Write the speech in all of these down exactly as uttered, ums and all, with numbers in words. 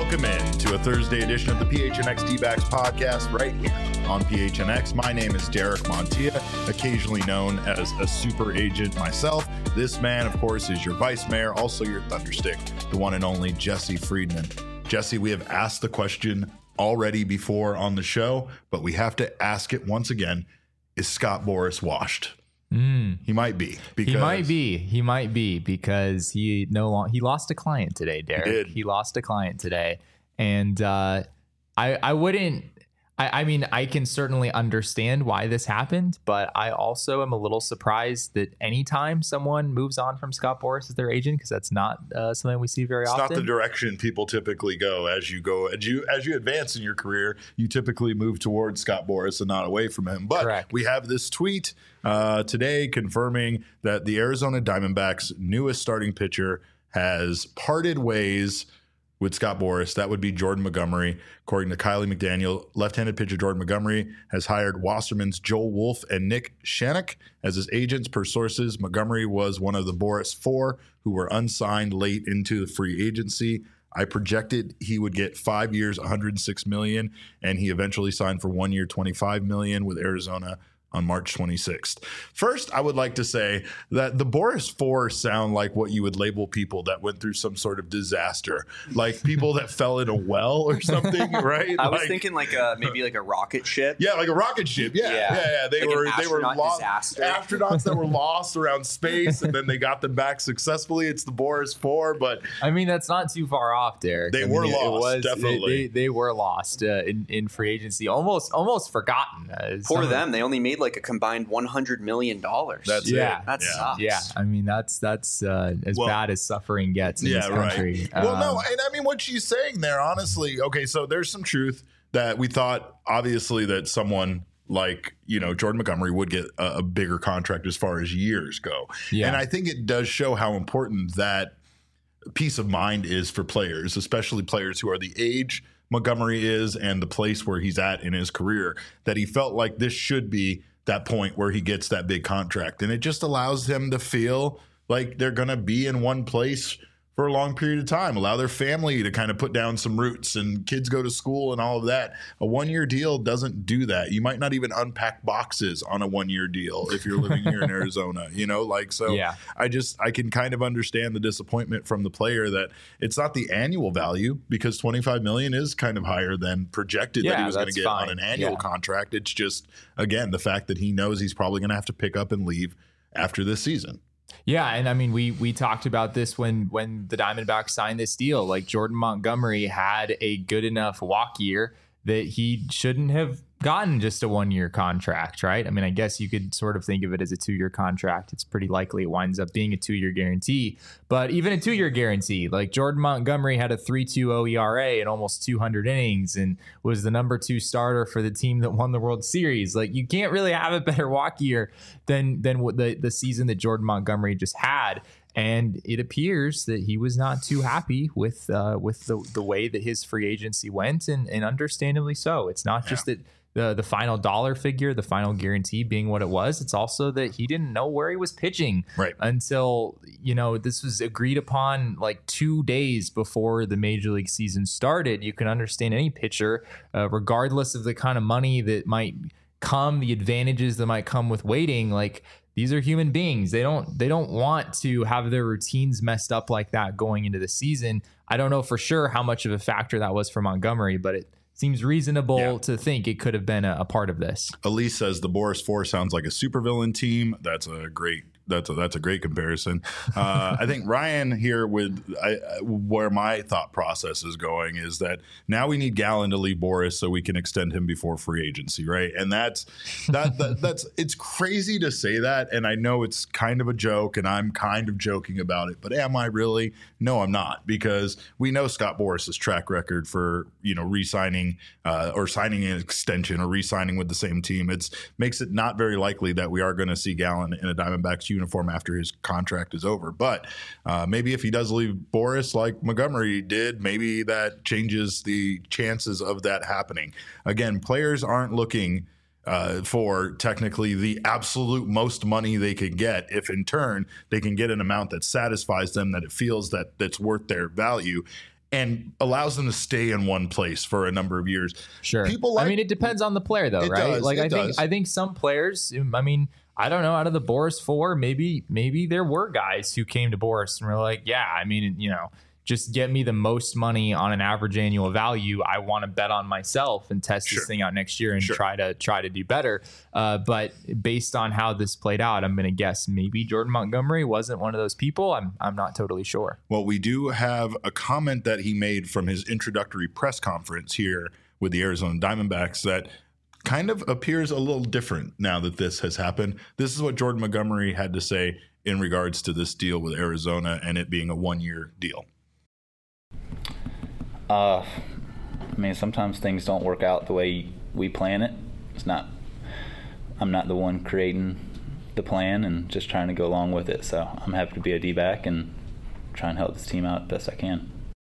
Welcome in to a Thursday edition of the P H N X D-Backs podcast right here on P H N X. My name is Derek Montilla, occasionally known as a super agent myself. This man, of course, is your vice mayor, also your thunderstick, the one and only Jesse Friedman. Jesse, we have asked the question already before on the show, but we have to ask it once again. Is Scott Boras washed? Mm. He might be. Because he might be. He might be because he no long, he lost a client today, Derek. He did. He lost a client today, and uh, I I wouldn't. I, I mean, I can certainly understand why this happened, but I also am a little surprised that anytime someone moves on from Scott Boras as their agent, because that's not uh, something we see very it's often. It's not the direction people typically go as you go as you as you advance in your career. You typically move towards Scott Boras and not away from him. But Correct. We have this tweet uh, today confirming that the Arizona Diamondbacks' newest starting pitcher has parted ways with Scott Boras. That would be Jordan Montgomery. According to Kylie McDaniel, left-handed pitcher Jordan Montgomery has hired Wasserman's Joel Wolf and Nick Shannock as his agents. Per sources, Montgomery was one of the Boras four who were unsigned late into the free agency. I projected he would get five years, one hundred six million dollars, and he eventually signed for one year, twenty-five million dollars with Arizona on March twenty-sixth. First, I would like to say that the Boras four sound like what you would label people that went through some sort of disaster, like people that fell in a well or something, right? I was like, thinking like a maybe like a rocket ship. Yeah, like a rocket ship. Yeah, yeah, yeah. yeah. They like were they were lost disaster. astronauts that were lost around space, and then they got them back successfully. It's the Boras four, but I mean that's not too far off, Derek. They I were mean, lost, it was, definitely. They, they, they were lost uh, in in free agency, almost almost forgotten. Uh, For some- them, they only made like a combined one hundred million dollars. That's yeah, it. That yeah. sucks. Yeah, I mean that's that's uh, as Well, bad as suffering gets in yeah, this country. right. Well, no, Um, and I mean what she's saying there, honestly. Okay, so there's some truth that we thought, obviously, that someone like, you know, Jordan Montgomery would get a, a bigger contract as far as years go. Yeah. And I think it does show how important that peace of mind is for players, especially players who are the age Montgomery is and the place where he's at in his career, that he felt like this should be that point where he gets that big contract. And it just allows them to feel like they're going to be in one place for a long period of time, allow their family to kind of put down some roots and kids go to school and all of that. A one-year deal doesn't do that. You might not even unpack boxes on a one-year deal if you're living here in Arizona, you know, like, so Yeah. I just, I can kind of understand the disappointment from the player that it's not the annual value, because twenty-five million dollars is kind of higher than projected that Yeah, he was going to that's get fine. on an annual Yeah. contract. It's just, again, the fact that he knows he's probably going to have to pick up and leave after this season. Yeah, and I mean, we we talked about this when when the Diamondbacks signed this deal. Like Jordan Montgomery had a good enough walk year that he shouldn't have gotten just a one-year contract, right? I mean, I guess you could sort of think of it as a two-year contract. It's pretty likely it winds up being a two-year guarantee. But even a two-year guarantee, like Jordan Montgomery had a three point two oh E R A in almost two hundred innings and was the number two starter for the team that won the World Series. Like, you can't really have a better walk year than than what the, the season that Jordan Montgomery just had. And it appears that he was not too happy with uh, with the, the way that his free agency went, and, and understandably so. It's not just that the the final dollar figure, the final guarantee being what it was. It's also that he didn't know where he was pitching Right. until, you know, this was agreed upon like two days before the major league season started. You can understand any pitcher, uh, regardless of the kind of money that might come, the advantages that might come with waiting, like, these are human beings. They don't they don't want to have their routines messed up like that going into the season. I don't know for sure how much of a factor that was for Montgomery, but it seems reasonable Yeah. to think it could have been a, a part of this. Elise says the Boras four sounds like a supervillain team. That's a great that's a, that's a great comparison. Uh, I think Ryan here with I, where my thought process is going is that now we need Gallen to leave Boras so we can extend him before free agency, right? And that's that, that that's it's crazy to say that, and I know it's kind of a joke, and I'm kind of joking about it, but am I really? No, I'm not, because we know Scott Boras' track record for, you know, re-signing uh, or signing an extension or re-signing with the same team. It's makes it not very likely that we are going to see Gallen in a Diamondbacks uniform after his contract is over. But uh, maybe if he does leave Boras like Montgomery did, maybe that changes the chances of that happening. Again, players aren't looking uh, for technically the absolute most money they could get if in turn they can get an amount that satisfies them, that it feels that that's worth their value. and allows them to stay in one place for a number of years. Sure. People like, I mean, it depends on the player, though, it right? Does, like, it I think does. I think some players. I mean, I don't know. Out of the Boris four, maybe maybe there were guys who came to Boris and were like, yeah, I mean, you know, just get me the most money on an average annual value. I want to bet on myself and test Sure. this thing out next year and Sure. try to try to do better. Uh, but based on how this played out, I'm going to guess maybe Jordan Montgomery wasn't one of those people. I'm I'm not totally sure. Well, we do have a comment that he made from his introductory press conference here with the Arizona Diamondbacks that kind of appears a little different now that this has happened. This is what Jordan Montgomery had to say in regards to this deal with Arizona and it being a one-year deal. Uh, I mean, sometimes things don't work out the way we plan it. It's not, I'm not the one creating the plan and just trying to go along with it. So I'm happy to be a D-back and try and help this team out best I can.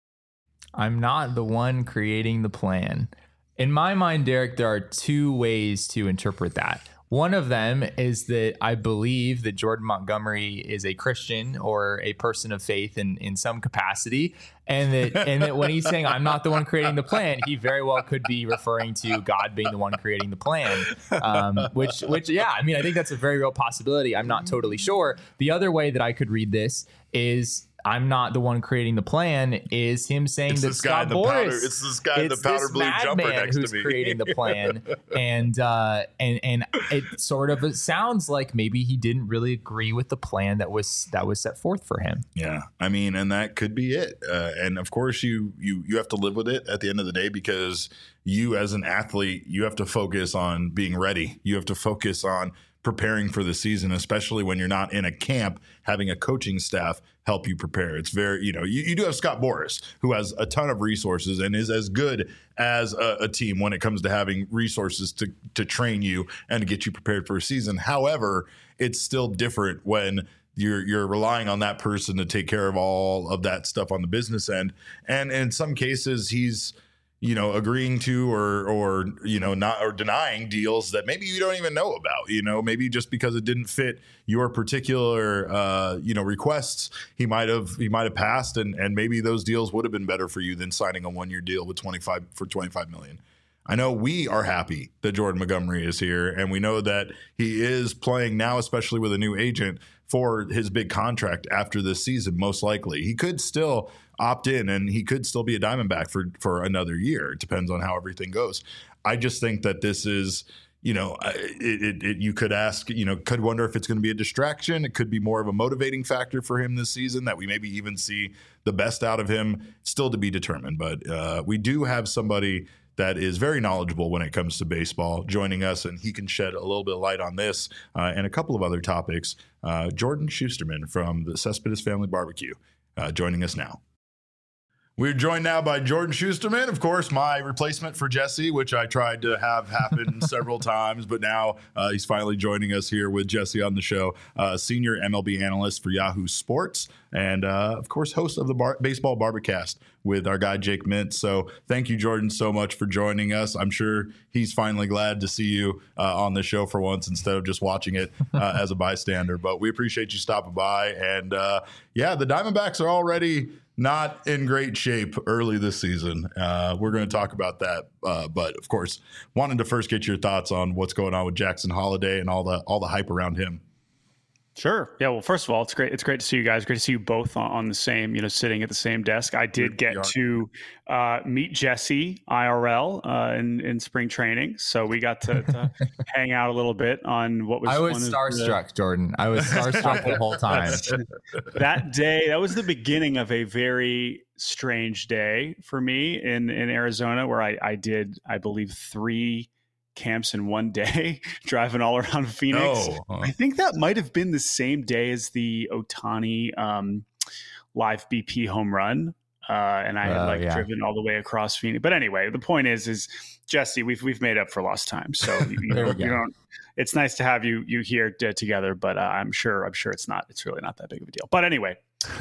I'm not the one creating the plan. In my mind, Derek, there are two ways to interpret that. One of them is that I believe that Jordan Montgomery is a Christian or a person of faith in, in some capacity. And that and that when he's saying I'm not the one creating the plan, he very well could be referring to God being the one creating the plan. Um, which, which, yeah, I mean, I think that's a very real possibility. I'm not totally sure. The other way that I could read this is I'm not the one creating the plan is him saying It's that this guy Scott in the Boras, powder- it's this guy in the it's powder this blue jumper madman next to who's me. creating the plan. and uh, and and it sort of it sounds like maybe he didn't really agree with the plan that was that was set forth for him. Yeah, I mean, and that could be it. Uh, and of course, you you you have to live with it at the end of the day because you, as an athlete, you have to focus on being ready. You have to focus on preparing for the season, especially when you're not in a camp, having a coaching staff help you prepare. It's very, you know, you, you do have Scott Boras, who has a ton of resources and is as good as a, a team when it comes to having resources to to train you and to get you prepared for a season. However, it's still different when you're you're relying on that person to take care of all of that stuff on the business end. And in some cases, he's you know, agreeing to or, or, you know, not or denying deals that maybe you don't even know about, you know, maybe just because it didn't fit your particular, uh, you know, requests, he might have he might have passed and, and maybe those deals would have been better for you than signing a one year deal with twenty-five for twenty-five million. I know we are happy that Jordan Montgomery is here, and we know that he is playing now, especially with a new agent, for his big contract after this season, most likely. He could still opt in, and he could still be a Diamondback for, for another year. It depends on how everything goes. I just think that this is, you know, it, it, it, you could ask, you know, could wonder if it's going to be a distraction. It could be more of a motivating factor for him this season that we maybe even see the best out of him, still to be determined. But uh, we do have somebody that is very knowledgeable when it comes to baseball joining us, and he can shed a little bit of light on this uh, and a couple of other topics. Uh, Jordan Schusterman from the Cespedes Family Barbecue uh, joining us now. We're joined now by Jordan Schusterman, of course, my replacement for Jesse, which I tried to have happen several times, but now uh, he's finally joining us here with Jesse on the show, uh, senior M L B analyst for Yahoo Sports, and uh, of course, host of the bar- Baseball Barbacast with our guy Jake Mintz. So thank you, Jordan, so much for joining us. I'm sure he's finally glad to see you uh, on the show for once instead of just watching it uh, as a bystander. But we appreciate you stopping by. And uh, yeah, the Diamondbacks are already not in great shape early this season. Uh, we're going to talk about that. Uh, but of course, wanted to first get your thoughts on what's going on with Jackson Holliday and all the all the hype around him. Sure. Yeah. Well, first of all, it's great. It's great to see you guys. Great to see you both on, on the same, you know, sitting at the same desk. I did get to uh, meet Jesse I R L uh, in, in spring training. So we got to, to hang out a little bit on what was. I was starstruck, the, Jordan. I was starstruck the whole time. That day, that was the beginning of a very strange day for me in, in Arizona, where I, I did, I believe, three camps in one day, driving all around Phoenix. No. I think that might have been the same day as the Ohtani um, live B P home run. Uh, and I had uh, like yeah. driven all the way across Phoenix. But anyway, the point is, is Jesse, we've, we've made up for lost time. So you, you, know, you don't, it's nice to have you, you here t- together, but uh, I'm sure, I'm sure it's not, it's really not that big of a deal. But anyway,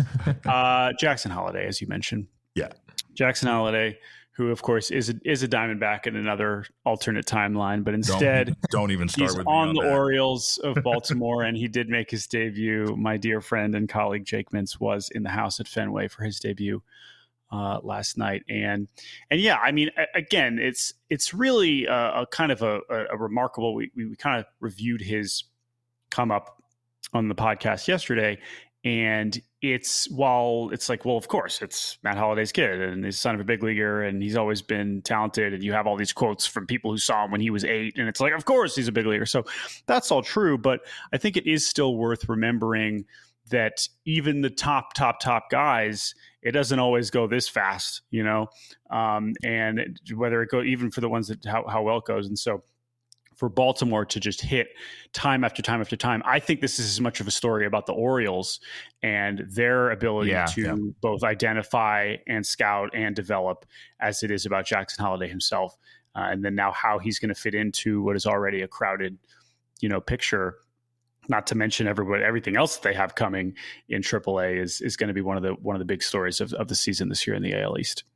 uh, Jackson Holliday, as you mentioned. Yeah. Jackson Holliday, who of course is a, is a Diamondback in another alternate timeline, but instead don't, don't even start he's with on, on the that. Orioles of Baltimore, and he did make his debut. My dear friend and colleague Jake Mintz was in the house at Fenway for his debut uh, last night. And and yeah, I mean, again, it's it's really a, a kind of a, a remarkable. We we kind of reviewed his come up on the podcast yesterday, and it's while it's like, well, of course, it's Matt Holliday's kid and he's son of a big leaguer and he's always been talented. And you have all these quotes from people who saw him when he was eight. And it's like, of course, he's a big leaguer. So that's all true. But I think it is still worth remembering that even the top, top, top guys, it doesn't always go this fast, you know, um, and whether it go even for the ones that how, how well it goes. And so for Baltimore to just hit time after time after time, I think this is as much of a story about the Orioles and their ability yeah, to yeah. both identify and scout and develop as it is about Jackson Holliday himself. Uh, and then now how he's going to fit into what is already a crowded, you know, picture, not to mention everybody, everything else that they have coming in triple A is, is going to be one of the, one of the big stories of, of the season this year in the A L East.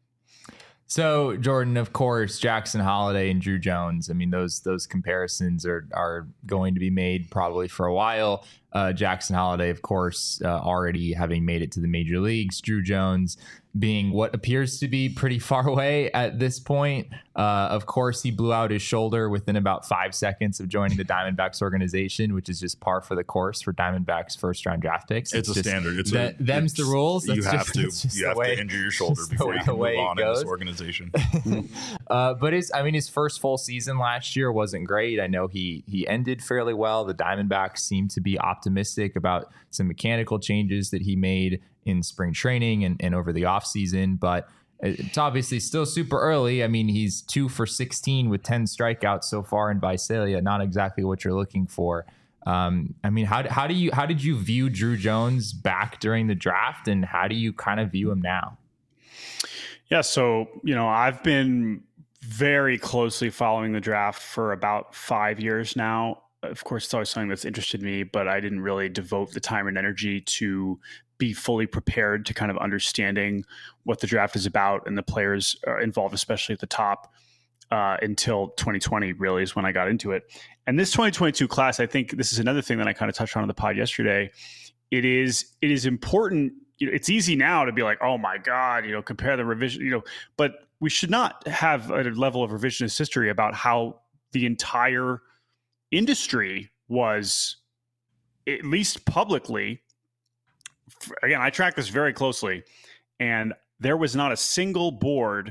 So, Jordan, of course, Jackson Holliday and Drew Jones. I mean, those those comparisons are are going to be made probably for a while. Uh, Jackson Holliday, of course, uh, already having made it to the major leagues. Drew Jones being what appears to be pretty far away at this point. Uh, of course, he blew out his shoulder within about five seconds of joining the Diamondbacks organization, which is just par for the course for Diamondbacks first round draft picks. It's, it's a standard. It's that, a, them's it's, the rules. That's you just, have to you have way, to injure your shoulder before you can move on in this organization. uh, but his, I mean, his first full season last year wasn't great. I know he he ended fairly well. The Diamondbacks seemed to be optimistic about some mechanical changes that he made in spring training and, and over the offseason, but it's obviously still super early. I mean, he's two for sixteen with ten strikeouts so far in Visalia. Not exactly what you're looking for. Um, I mean, how, how do you how did you view Drew Jones back during the draft, and how do you kind of view him now? Yeah, so you know, I've been very closely following the draft for about five years now. Of course, it's always something that's interested me, but I didn't really devote the time and energy to be fully prepared to kind of understanding what the draft is about and the players involved, especially at the top, uh, until twenty twenty really is when I got into it. And this twenty twenty-two class, I think this is another thing that I kind of touched on in the pod yesterday. It is, it is important. You know, it's easy now to be like, oh my God, you know, compare the revision, you know, but we should not have a level of revisionist history about how the entire industry was, at least publicly. Again, I track this very closely, and there was not a single board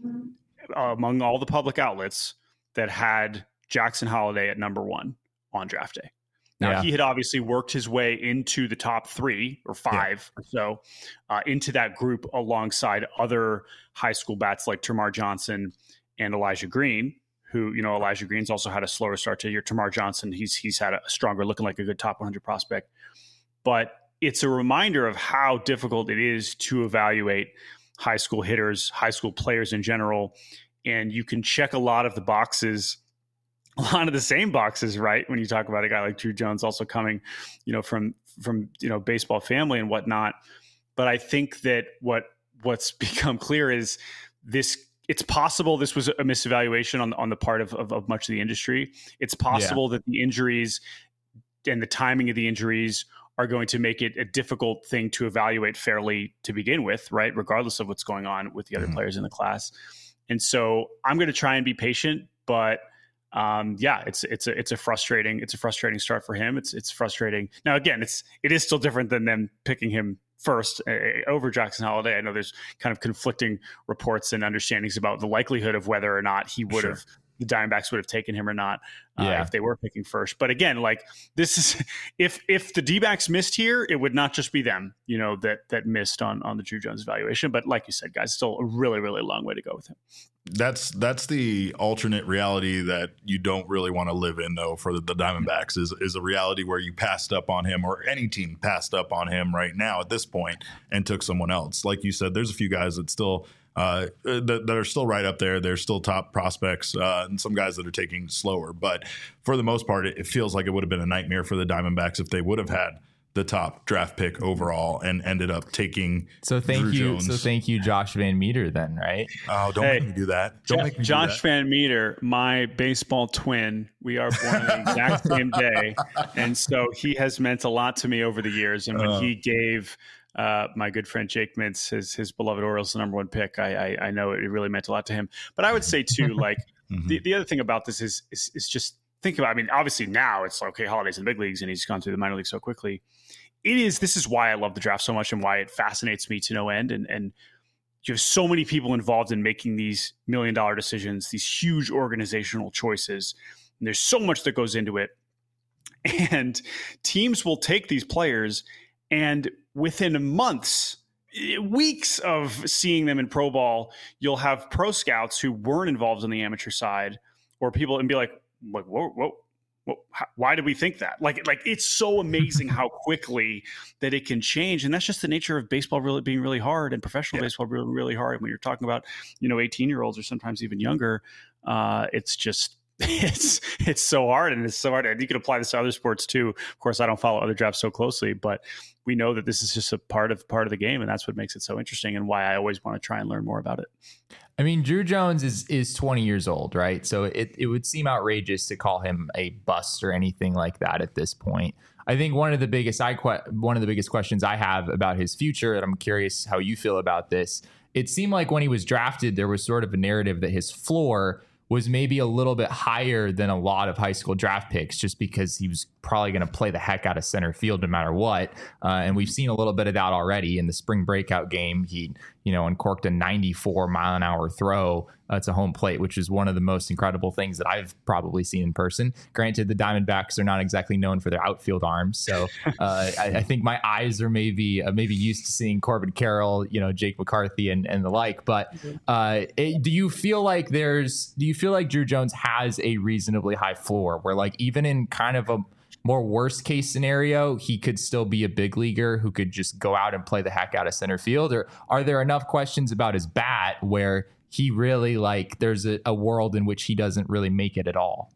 uh, among all the public outlets that had Jackson Holliday at number one on draft day. Now, yeah. he had obviously worked his way into the top three or five yeah. or so uh, into that group alongside other high school bats like Termarr Johnson and Elijah Green, who, you know, Elijah Green's also had a slower start to the year. Termarr Johnson, he's he's had a stronger, looking like a good top one hundred prospect. But it's a reminder of how difficult it is to evaluate high school hitters, high school players in general. And you can check a lot of the boxes, a lot of the same boxes, right? When you talk about a guy like Drew Jones also coming, you know, from, from, you know, baseball family and whatnot. But I think that what, what's become clear is this, it's possible this was a misevaluation on, on the part of, of, of much of the industry. It's possible yeah. that the injuries and the timing of the injuries are going to make it a difficult thing to evaluate fairly to begin with, right? Regardless of what's going on with the other mm-hmm. players in the class. And so I'm going to try and be patient, but um, yeah, it's, it's a, it's a frustrating, it's a frustrating start for him. It's, it's frustrating. Now, again, it's, it is still different than them picking him first uh, over Jackson Holliday. I know there's kind of conflicting reports and understandings about the likelihood of whether or not he would have, sure. the Diamondbacks would have taken him or not uh, yeah. if they were picking first. But again, like this is, if if the D-backs missed here, it would not just be them, you know, that that missed on on the Drew Jones evaluation. But like you said, guys, still a really, really long way to go with him. That's that's the alternate reality that you don't really want to live in, though, for the, the Diamondbacks is is a reality where you passed up on him, or any team passed up on him right now at this point and took someone else. Like you said, there's a few guys that still Uh, that, that are still right up there. They're still top prospects, uh, and some guys that are taking slower. But for the most part, it, it feels like it would have been a nightmare for the Diamondbacks if they would have had the top draft pick overall and ended up taking. So thank Drew you. Jones. So thank you, Josh Van Meter. Then, right? Oh, don't hey, make me do that. Don't Jeff, make me Josh do that. Van Meter, my baseball twin. We are born on the exact same day, and so he has meant a lot to me over the years. And when uh, he gave uh, my good friend Jake Mintz, his his beloved Orioles, the number one pick. I, I I know it really meant a lot to him. But I would say too, like mm-hmm. the, the other thing about this is, is is just think about. I mean, obviously now it's like, okay, Holiday's in the big leagues and he's gone through the minor leagues so quickly. It is. This is why I love the draft so much and why it fascinates me to no end. And and you have so many people involved in making these million dollar decisions, these huge organizational choices. And there's so much that goes into it. And teams will take these players and within months, weeks of seeing them in pro ball, you'll have pro scouts who weren't involved on the amateur side or people and be like, like, whoa, whoa. Well, how, why did we think that? Like, like it's so amazing how quickly that it can change, and that's just the nature of baseball really being really hard and professional yeah. baseball really, really hard. When you're talking about, you know, eighteen year olds or sometimes even younger, uh, it's just it's it's so hard, and it's so hard. And you can apply this to other sports too. Of course, I don't follow other drafts so closely, but we know that this is just a part of part of the game, and that's what makes it so interesting, and why I always want to try and learn more about it. I mean, Drew Jones is is twenty years old, right? So it, it would seem outrageous to call him a bust or anything like that at this point. I think one of the biggest I que- one of the biggest questions I have about his future, and I'm curious how you feel about this. It seemed like when he was drafted, there was sort of a narrative that his floor was maybe a little bit higher than a lot of high school draft picks, just because he was probably going to play the heck out of center field no matter what. Uh, and we've seen a little bit of that already in the spring breakout game. He, you know, uncorked a ninety-four mile an hour throw uh, to home plate, which is one of the most incredible things that I've probably seen in person. Granted, the Diamondbacks are not exactly known for their outfield arms. So uh, I, I think my eyes are maybe uh, maybe used to seeing Corbin Carroll, you know, Jake McCarthy and, and the like. But uh, it, do you feel like there's do you feel like Drew Jones has a reasonably high floor where, like, even in kind of a more worst case scenario, he could still be a big leaguer who could just go out and play the heck out of center field? Or are there enough questions about his bat where he really, like, there's a, a world in which he doesn't really make it at all?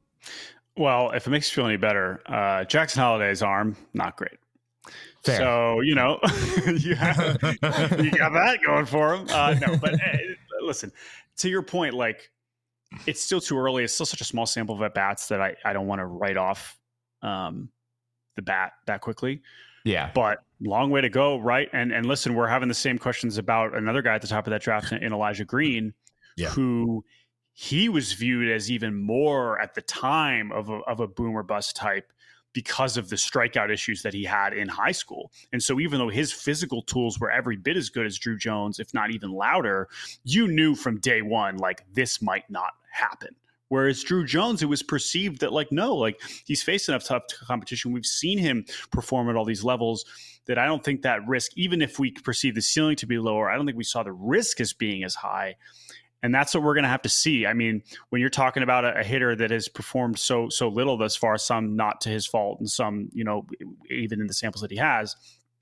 Well, if it makes you feel any better, uh, Jackson Holiday's arm, not great. Fair. So, you know, you, have, you got that going for him. Uh, no, but uh, listen, to your point, like, it's still too early. It's still such a small sample of at bats that I, I don't want to write off um, the bat that quickly. Yeah. But long way to go, right? And and listen, we're having the same questions about another guy at the top of that draft in, in Elijah Green, yeah. who he was viewed as even more at the time of a, of a boom or bust type because of the strikeout issues that he had in high school. And so even though his physical tools were every bit as good as Drew Jones, if not even louder, you knew from day one, like, this might not happen. Whereas Drew Jones, it was perceived that, like, no, like, he's faced enough tough competition. We've seen him perform at all these levels that I don't think that risk, even if we perceive the ceiling to be lower, I don't think we saw the risk as being as high. And that's what we're going to have to see. I mean, when you're talking about a, a hitter that has performed so so little thus far, some not to his fault and some, you know, even in the samples that he has,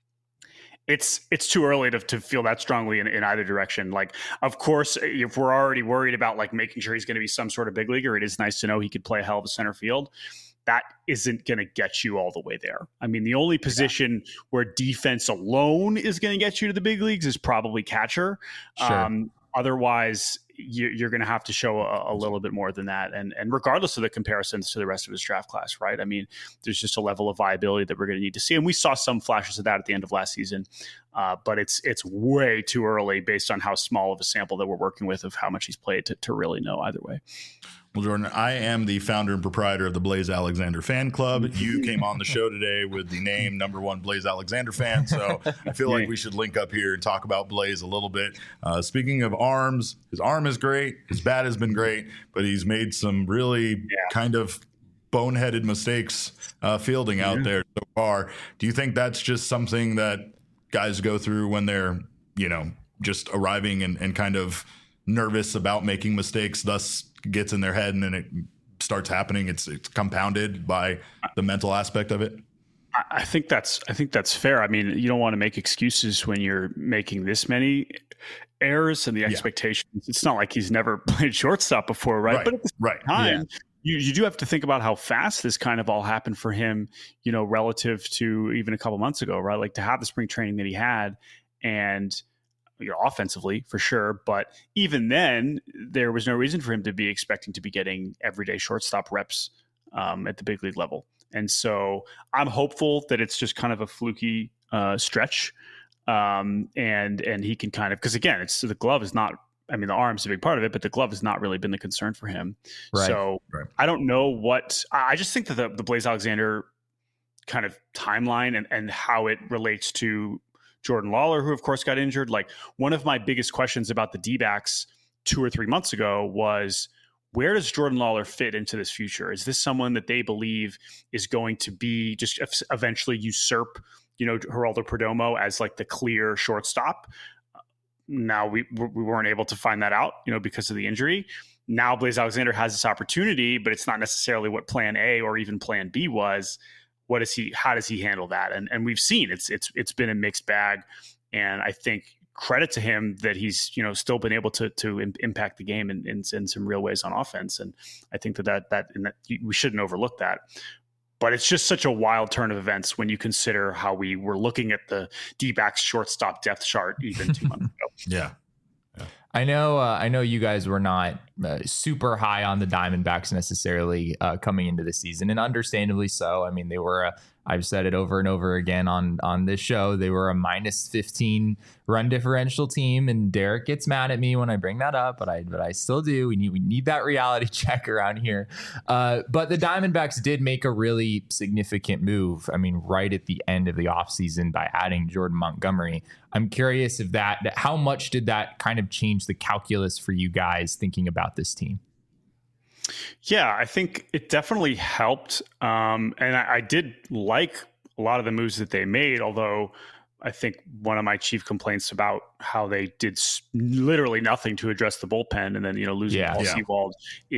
it's it's too early to, to feel that strongly in, in either direction. Like, of course, if we're already worried about, like, making sure he's going to be some sort of big leaguer, it is nice to know he could play a hell of a center field. That isn't going to get you all the way there. I mean, the only position yeah. where defense alone is going to get you to the big leagues is probably catcher. Sure. Um, otherwise, you, you're going to have to show a, a little bit more than that. And and regardless of the comparisons to the rest of his draft class, right? I mean, there's just a level of viability that we're going to need to see. And we saw some flashes of that at the end of last season. Uh, but it's it's way too early based on how small of a sample that we're working with of how much he's played to, to really know either way. Well, Jordan, I am the founder and proprietor of the Blaze Alexander fan club. You came on the show today with the name number one Blaze Alexander fan. So I feel like we should link up here and talk about Blaze a little bit. Uh, speaking of arms, his arm is great. His bat has been great, but he's made some really yeah. kind of boneheaded mistakes uh, fielding out yeah. there so far. Do you think that's just something that guys go through when they're, you know, just arriving and, and kind of nervous about making mistakes, thus gets in their head and then it starts happening? It's it's compounded by the mental aspect of it. I think that's I think that's fair. I mean, you don't want to make excuses when you're making this many errors and the expectations. Yeah. It's not like he's never played shortstop before, right? right. But at the same right. time, yeah. you, you do have to think about how fast this kind of all happened for him, you know, relative to even a couple months ago, right? Like, to have the spring training that he had, and you know, offensively for sure, but even then, there was no reason for him to be expecting to be getting everyday shortstop reps um, at the big league level. And so I'm hopeful that it's just kind of a fluky uh, stretch. Um, and and he can kind of, because again, it's the glove is not, I mean, the arm's a big part of it, but the glove has not really been the concern for him. Right. So Right. I don't know what, I just think that the, the Blaze Alexander kind of timeline and, and how it relates to Jordan Lawler, who of course got injured. Like, one of my biggest questions about the D-backs two or three months ago was, where does Jordan Lawler fit into this future? Is this someone that they believe is going to be just eventually usurp, you know, Geraldo Perdomo as like the clear shortstop? Now we we weren't able to find that out, you know, because of the injury. Now Blaze Alexander has this opportunity, but it's not necessarily what plan A or even plan B was. What is he, how does he handle that? And and we've seen it's it's it's been a mixed bag. And I think credit to him that he's, you know, still been able to to im- impact the game in, in in some real ways on offense. And I think that that that, and that we shouldn't overlook that. But it's just such a wild turn of events when you consider how we were looking at the D-backs shortstop depth chart even two months ago. Yeah. I know. Uh, I know you guys were not uh, super high on the Diamondbacks necessarily uh, coming into the season, and understandably so. I mean, they were. A, I've said it over and over again on on this show. They were a minus fifteen run differential team, and Derek gets mad at me when I bring that up, but I but I still do. We need we need that reality check around here. Uh, but the Diamondbacks did make a really significant move. I mean, right at the end of the offseason by adding Jordan Montgomery. I'm curious if that, how much did that kind of change the calculus for you guys thinking about this team? Yeah, I think it definitely helped. Um, and I, I did like a lot of the moves that they made, although I think one of my chief complaints about how they did s- literally nothing to address the bullpen, and then, you know, losing Yeah, Paul yeah. Sewald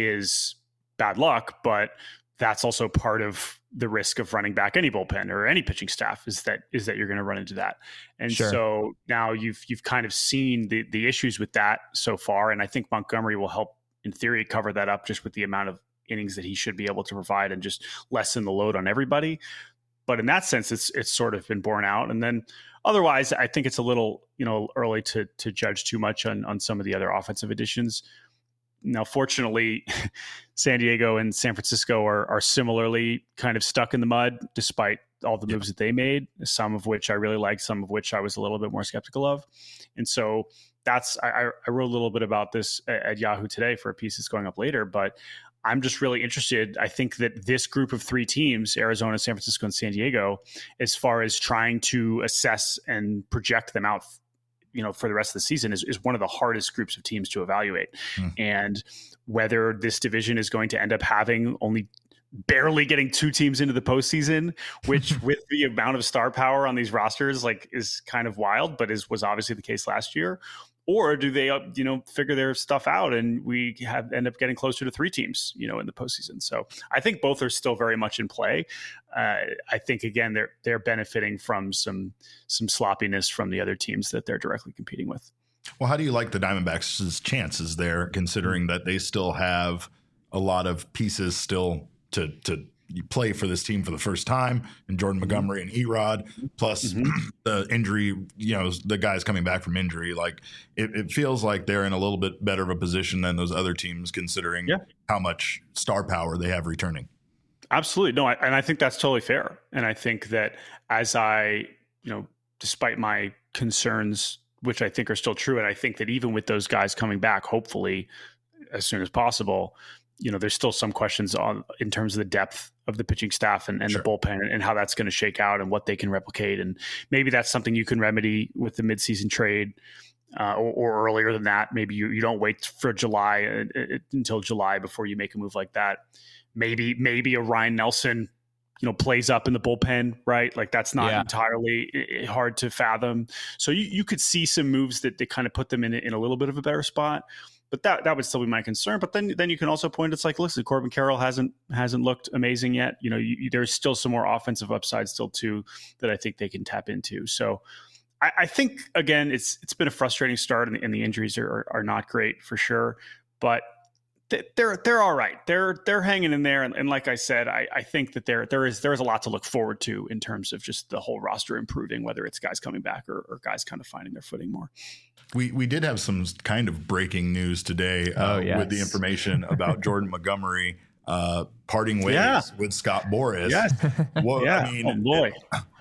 is bad luck, but that's also part of the risk of running back any bullpen or any pitching staff is that is that you're going to run into that. And Sure. so now you've you've kind of seen the the issues with that so far, and I think Montgomery will help in theory cover that up just with the amount of innings that he should be able to provide and just lessen the load on everybody. But in that sense, it's it's sort of been borne out. And then otherwise, I think it's a little, you know, early to to judge too much on on some of the other offensive additions. Now, fortunately, San Diego and San Francisco are are similarly kind of stuck in the mud, despite all the moves yeah. that they made, some of which I really liked, some of which I was a little bit more skeptical of. And so that's, I, I wrote a little bit about this at, at Yahoo today for a piece that's going up later, but I'm just really interested. I think that this group of three teams, Arizona, San Francisco, and San Diego, as far as trying to assess and project them out, you know, for the rest of the season is, is one of the hardest groups of teams to evaluate. Mm. And whether this division is going to end up having only barely getting two teams into the postseason, which with the amount of star power on these rosters, like is kind of wild, but is was obviously the case last year. Or do they, you know, figure their stuff out and we have end up getting closer to three teams, you know, in the postseason? So I think both are still very much in play. Uh, I think again they're they're benefiting from some some sloppiness from the other teams that they're directly competing with. Well, how do you like the Diamondbacks' chances there, considering that they still have a lot of pieces still to to play for this team for the first time, and Jordan Montgomery and Erod, plus mm-hmm. the injury, you know, the guys coming back from injury? Like it, it feels like they're in a little bit better of a position than those other teams, considering yeah. how much star power they have returning. Absolutely. No, I, and I think that's totally fair. And I think that as I, you know, despite my concerns, which I think are still true, and I think that even with those guys coming back, hopefully as soon as possible, you know, there's still some questions on in terms of the depth of the pitching staff and, and sure. the bullpen and how that's going to shake out and what they can replicate. And maybe that's something you can remedy with the midseason trade uh, or, or earlier than that. Maybe you, you don't wait for July uh, uh, until July before you make a move like that. Maybe, maybe a Ryan Nelson, you know, plays up in the bullpen, right? Like that's not yeah. entirely hard to fathom. So you, you could see some moves that they kind of put them in, in a little bit of a better spot. But that that would still be my concern. But then then you can also point, it's like, listen, Corbin Carroll hasn't hasn't looked amazing yet. You know, you, you, there's still some more offensive upside still too that I think they can tap into. So I, I think again, it's it's been a frustrating start, and the, and the injuries are, are are not great for sure. But they're they're all right. They're they're hanging in there, and, and like I said, I, I think that there there is there is a lot to look forward to in terms of just the whole roster improving, whether it's guys coming back or, or guys kind of finding their footing more. We we did have some kind of breaking news today uh, oh, yes. with the information about Jordan Montgomery uh, parting ways yeah. with Scott Boras. Yes. Well, yeah. I mean, oh boy.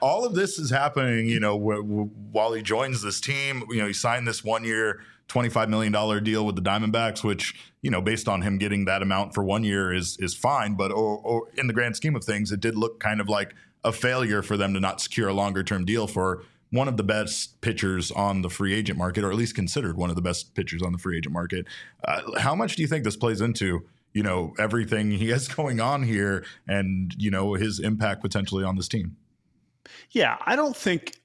all of this is happening, you know, w- w- while he joins this team. You know, he signed this one year, twenty-five million dollars deal with the Diamondbacks, which, you know, based on him getting that amount for one year is is fine. But or, or in the grand scheme of things, it did look kind of like a failure for them to not secure a longer term deal for one of the best pitchers on the free agent market, or at least considered one of the best pitchers on the free agent market. Uh, how much do you think this plays into, you know, everything he has going on here and, you know, his impact potentially on this team? Yeah, I don't think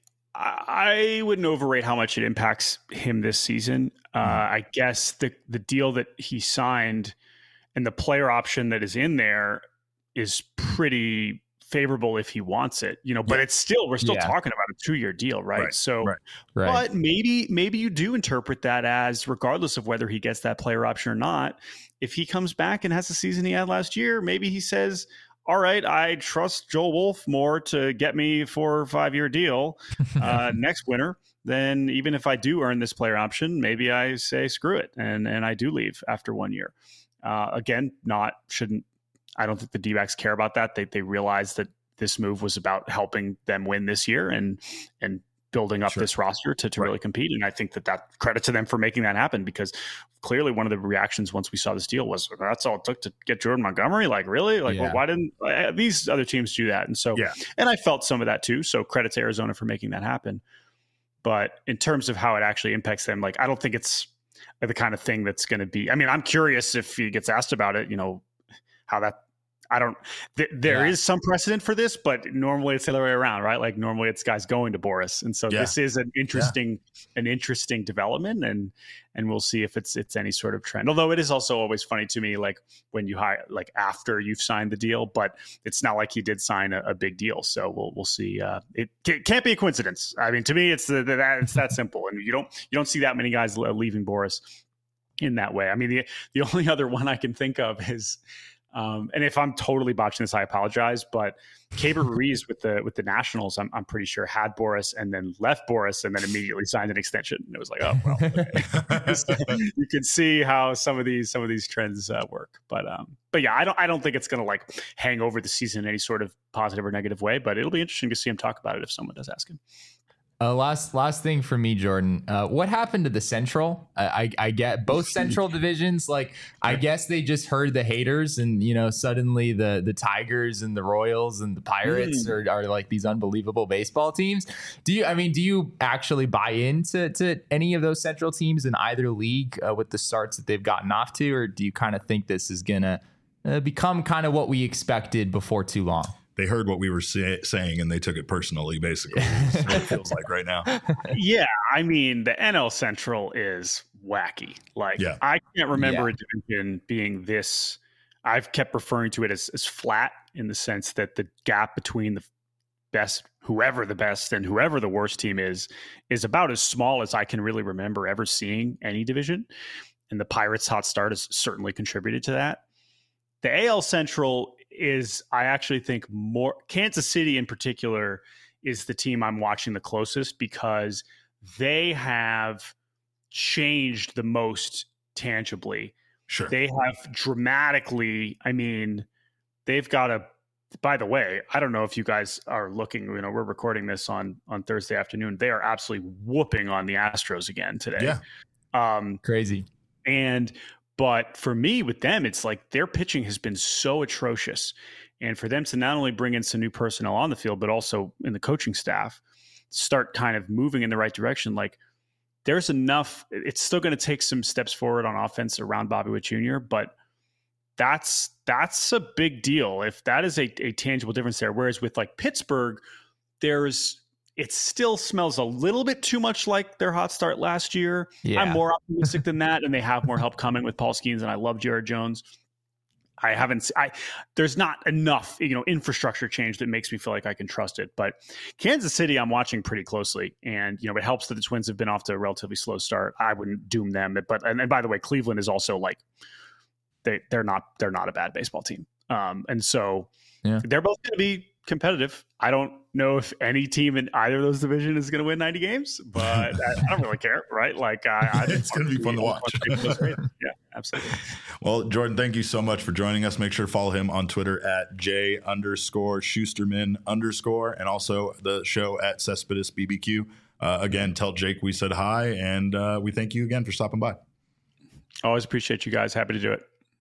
I wouldn't overrate how much it impacts him this season. Uh, mm-hmm. I guess the the deal that he signed and the player option that is in there is pretty favorable if he wants it, you know, but yeah. it's still, we're still yeah. talking about a two-year deal, right? right. So, right. Right. but maybe, maybe you do interpret that as, regardless of whether he gets that player option or not, if he comes back and has the season he had last year, maybe he says, all right, I trust Joel Wolf more to get me four or five year deal uh, next winter. Then even if I do earn this player option, maybe I say, screw it. And, and I do leave after one year. Uh, again, not shouldn't, I don't think the D-backs care about that. They they realize that this move was about helping them win this year and and building up sure. this roster to, to right. really compete. And I think that that credit to them for making that happen, because clearly one of the reactions once we saw this deal was, that's all it took to get Jordan Montgomery. Like, really? Like, yeah. well, why didn't uh, these other teams do that? And so, yeah. and I felt some of that too. So credit to Arizona for making that happen. But in terms of how it actually impacts them, like, I don't think it's the kind of thing that's going to be, I mean, I'm curious if he gets asked about it, you know, how that, I don't, th- there yeah. is some precedent for this, but normally it's the other way around, right? Like normally it's guys going to Boras. And so yeah. this is an interesting, yeah. an interesting development, and, and we'll see if it's, it's any sort of trend. Although it is also always funny to me, like when you hire, like after you've signed the deal, but it's not like he did sign a, a big deal. So we'll, we'll see. Uh, it, it can't be a coincidence. I mean, to me, it's the, the that it's that simple. And you don't, you don't see that many guys leaving Boras in that way. I mean, the, the only other one I can think of is, Um, and if I'm totally botching this, I apologize. But Keibert Ruiz with the with the Nationals, I'm I'm pretty sure had Boras and then left Boras and then immediately signed an extension. And it was like, oh well, okay. You can see how some of these some of these trends uh, work. But um, but yeah, I don't I don't think it's going to like hang over the season in any sort of positive or negative way. But it'll be interesting to see him talk about it if someone does ask him. Uh, last last thing for me, Jordan. Uh, what happened to the Central? I, I, I get both Central divisions. Like, I guess they just heard the haters, and you know, suddenly the the Tigers and the Royals and the Pirates mm. are, are like these unbelievable baseball teams. Do you? I mean, do you actually buy into to any of those Central teams in either league uh, with the starts that they've gotten off to, or do you kind of think this is gonna uh, become kind of what we expected before too long? They heard what we were say- saying and they took it personally, basically. That's what it feels like right now. Yeah. I mean, the N L Central is wacky. Like, yeah. I can't remember yeah. a division being this. I've kept referring to it as, as flat, in the sense that the gap between the best, whoever the best and whoever the worst team is, is about as small as I can really remember ever seeing any division. And the Pirates' hot start has certainly contributed to that. The A L Central is, I actually think, more Kansas City in particular is the team I'm watching the closest, because they have changed the most tangibly. Sure. They have dramatically, I mean, they've got a, by the way, I don't know if you guys are looking, you know, we're recording this on, on Thursday afternoon. They are absolutely whooping on the Astros again today. Yeah. Um, Crazy. And, But for me, with them, it's like their pitching has been so atrocious. And for them to not only bring in some new personnel on the field, but also in the coaching staff, start kind of moving in the right direction. Like, there's enough. It's still going to take some steps forward on offense around Bobby Witt Junior, but that's that's a big deal if that is a, a tangible difference there. Whereas with like Pittsburgh, there's it still smells a little bit too much like their hot start last year. Yeah. I'm more optimistic than that, and they have more help coming with Paul Skeens, and I love Jared Jones. I haven't, I, there's not enough, you know, infrastructure change that makes me feel like I can trust it. But Kansas City, I'm watching pretty closely, and, you know, it helps that the Twins have been off to a relatively slow start. I wouldn't doom them, but, and, and by the way, Cleveland is also like, they, they're not, they're not a bad baseball team. Um, and so yeah. they're both going to be competitive. I don't know if any team in either of those divisions is going to win ninety games, but I, I don't really care, right? Like, I, I it's going to be fun to watch. Yeah. Absolutely. Well, Jordan, thank you so much for joining us. Make sure to follow him on Twitter at J underscore Schusterman underscore, and also the show at Cespedes B B Q. Uh, again, tell Jake we said hi, and uh, we thank you again for stopping by. Always appreciate you guys. Happy to do it.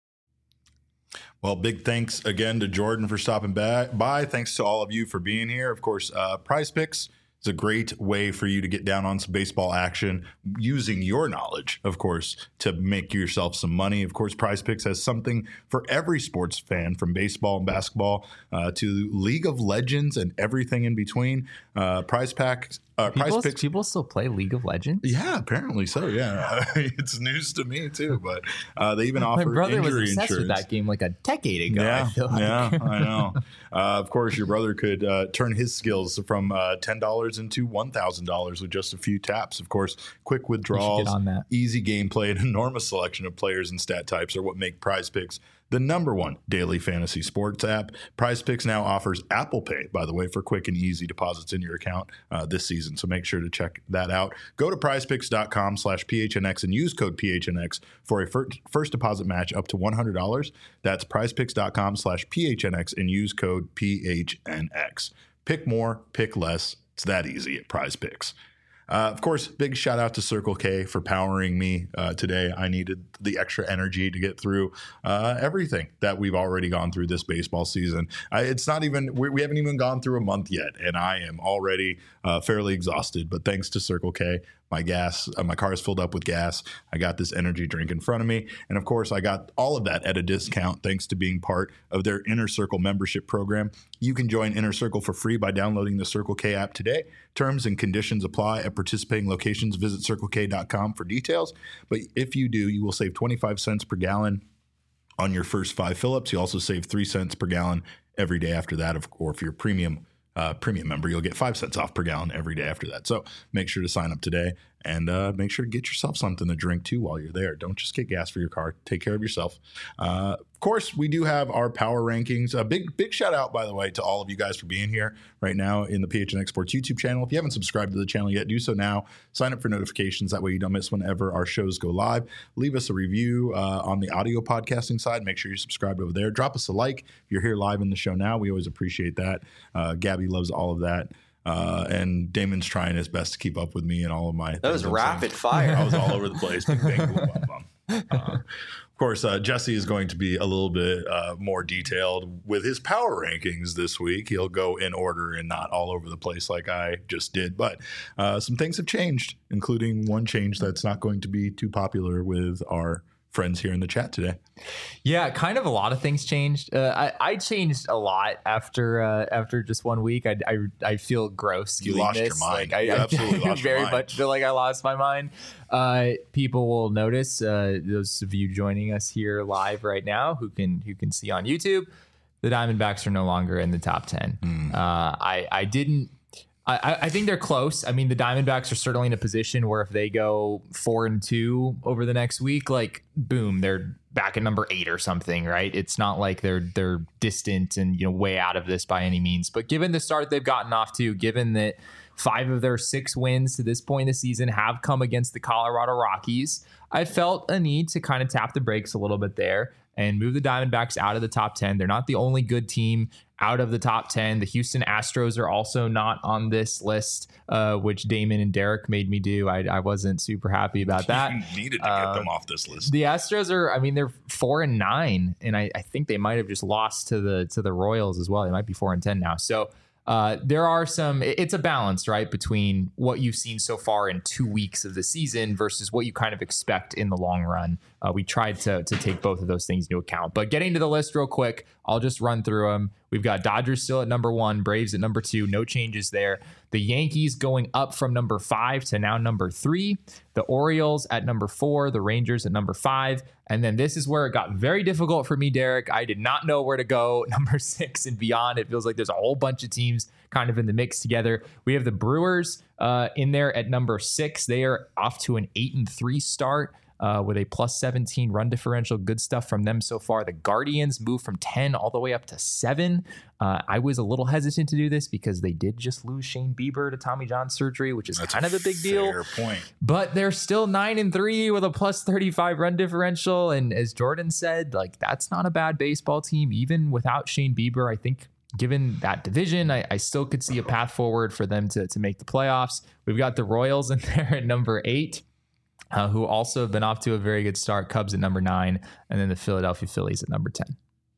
Well, big thanks again to Jordan for stopping by. Thanks to all of you for being here. Of course, uh, Prize Picks is a great way for you to get down on some baseball action using your knowledge, of course, to make yourself some money. Of course, Prize Picks has something for every sports fan, from baseball and basketball uh, to League of Legends and everything in between. Uh, Prize Packs. Uh, people, Prize Picks. people still play League of Legends? Yeah, apparently so. Yeah, it's news to me too. But uh, they even offer My brother injury was obsessed insurance. with that game like a decade ago. Yeah, I feel like. yeah, I know. Uh, of course, your brother could uh, turn his skills from uh, ten dollars into one thousand dollars with just a few taps. Of course, quick withdrawals, on that. easy gameplay, and enormous selection of players and stat types are what make Prize Picks the number one daily fantasy sports app. Prize Picks now offers Apple Pay, by the way, for quick and easy deposits in your account uh, this season. So make sure to check that out. Go to prizepicks.com slash PHNX and use code P H N X for a fir- first deposit match up to one hundred dollars. That's prizepicks.com slash PHNX and use code P H N X. Pick more, pick less. It's that easy at Prize Picks. Uh, of course, big shout out to Circle K for powering me uh, today. I needed the extra energy to get through uh, everything that we've already gone through this baseball season. I, it's not even, we, we haven't even gone through a month yet, and I am already uh, fairly exhausted. But thanks to Circle K, my gas, uh, my car is filled up with gas. I got this energy drink in front of me. And of course, I got all of that at a discount thanks to being part of their Inner Circle membership program. You can join Inner Circle for free by downloading the Circle K app today. Terms and conditions apply at participating locations. Visit circle k dot com for details. But if you do, you will save twenty-five cents per gallon on your first five fill-ups. You also save three cents per gallon every day after that. Or if you're a premium uh, premium member, you'll get five cents off per gallon every day after that. So make sure to sign up today, and uh, make sure to get yourself something to drink too while you're there. Don't just get gas for your car. Take care of yourself. Uh, of course, we do have our power rankings. A big, big shout out, by the way, to all of you guys for being here right now in the P H N X Sports YouTube channel. If you haven't subscribed to the channel yet, do so now. Sign up for notifications. That way you don't miss whenever our shows go live. Leave us a review uh, on the audio podcasting side. Make sure you're subscribed over there. Drop us a like if you're here live in the show now. We always appreciate that. Uh, Gabby loves all of that. Uh, and Damon's trying his best to keep up with me and all of my. That was rapid fire. I was all over the place. Bing, bang, boom, bum, bum. Uh, of course, uh, Jesse is going to be a little bit uh, more detailed with his power rankings this week. He'll go in order and not all over the place like I just did. But uh, some things have changed, including one change that's not going to be too popular with our friends here in the chat today. Yeah, kind of a lot of things changed. Uh, I, I changed a lot after uh, after just one week. I, I, I feel gross. You doing lost this. your mind. Like, I, you I, absolutely I lost your very mind. much feel like I lost my mind. Uh, people will notice, uh, those of you joining us here live right now who can who can see on YouTube, the Diamondbacks are no longer in the top ten. Mm. Uh, I, I didn't I, I think they're close. I mean, the Diamondbacks are certainly in a position where if they go four and two over the next week, like boom, they're back at number eight or something, right? It's not like they're they're distant and, you know, way out of this by any means. But given the start they've gotten off to, given that five of their six wins to this point in the season have come against the Colorado Rockies, I felt a need to kind of tap the brakes a little bit there and move the Diamondbacks out of the top ten. They're not the only good team out of the top ten. The Houston Astros are also not on this list, uh, which Damon and Derek made me do. I, I wasn't super happy about that. You needed to get uh, them off this list. The Astros are, I mean, they're four and nine, and I, I think they might have just lost to the to the Royals as well. They might be four and ten now. So uh, there are some. It's a balance, right, between what you've seen so far in two weeks of the season versus what you kind of expect in the long run. Uh, we tried to to take both of those things into account. But getting to the list real quick, I'll just run through them. We've got Dodgers still at number one, Braves at number two, no changes there. The Yankees going up from number five to now number three. The Orioles at number four, the Rangers at number five. And then this is where it got very difficult for me, Derek. I did not know where to go. Number six and beyond. It feels like there's a whole bunch of teams kind of in the mix together. We have the Brewers uh, in there at number six. They are off to an eight and three start. uh, with a plus seventeen run differential. Good stuff from them so far. The Guardians moved from ten all the way up to seven. Uh, I was a little hesitant to do this because they did just lose Shane Bieber to Tommy John surgery, which is That's kind a of a big fair deal. Point. But they're still nine and three with a plus thirty-five run differential. And as Jordan said, like that's not a bad baseball team, even without Shane Bieber. I think given that division, I, I still could see a path forward for them to, to make the playoffs. We've got the Royals in there at number eight, uh, who also have been off to a very good start. Cubs at number nine, and then the Philadelphia Phillies at number ten.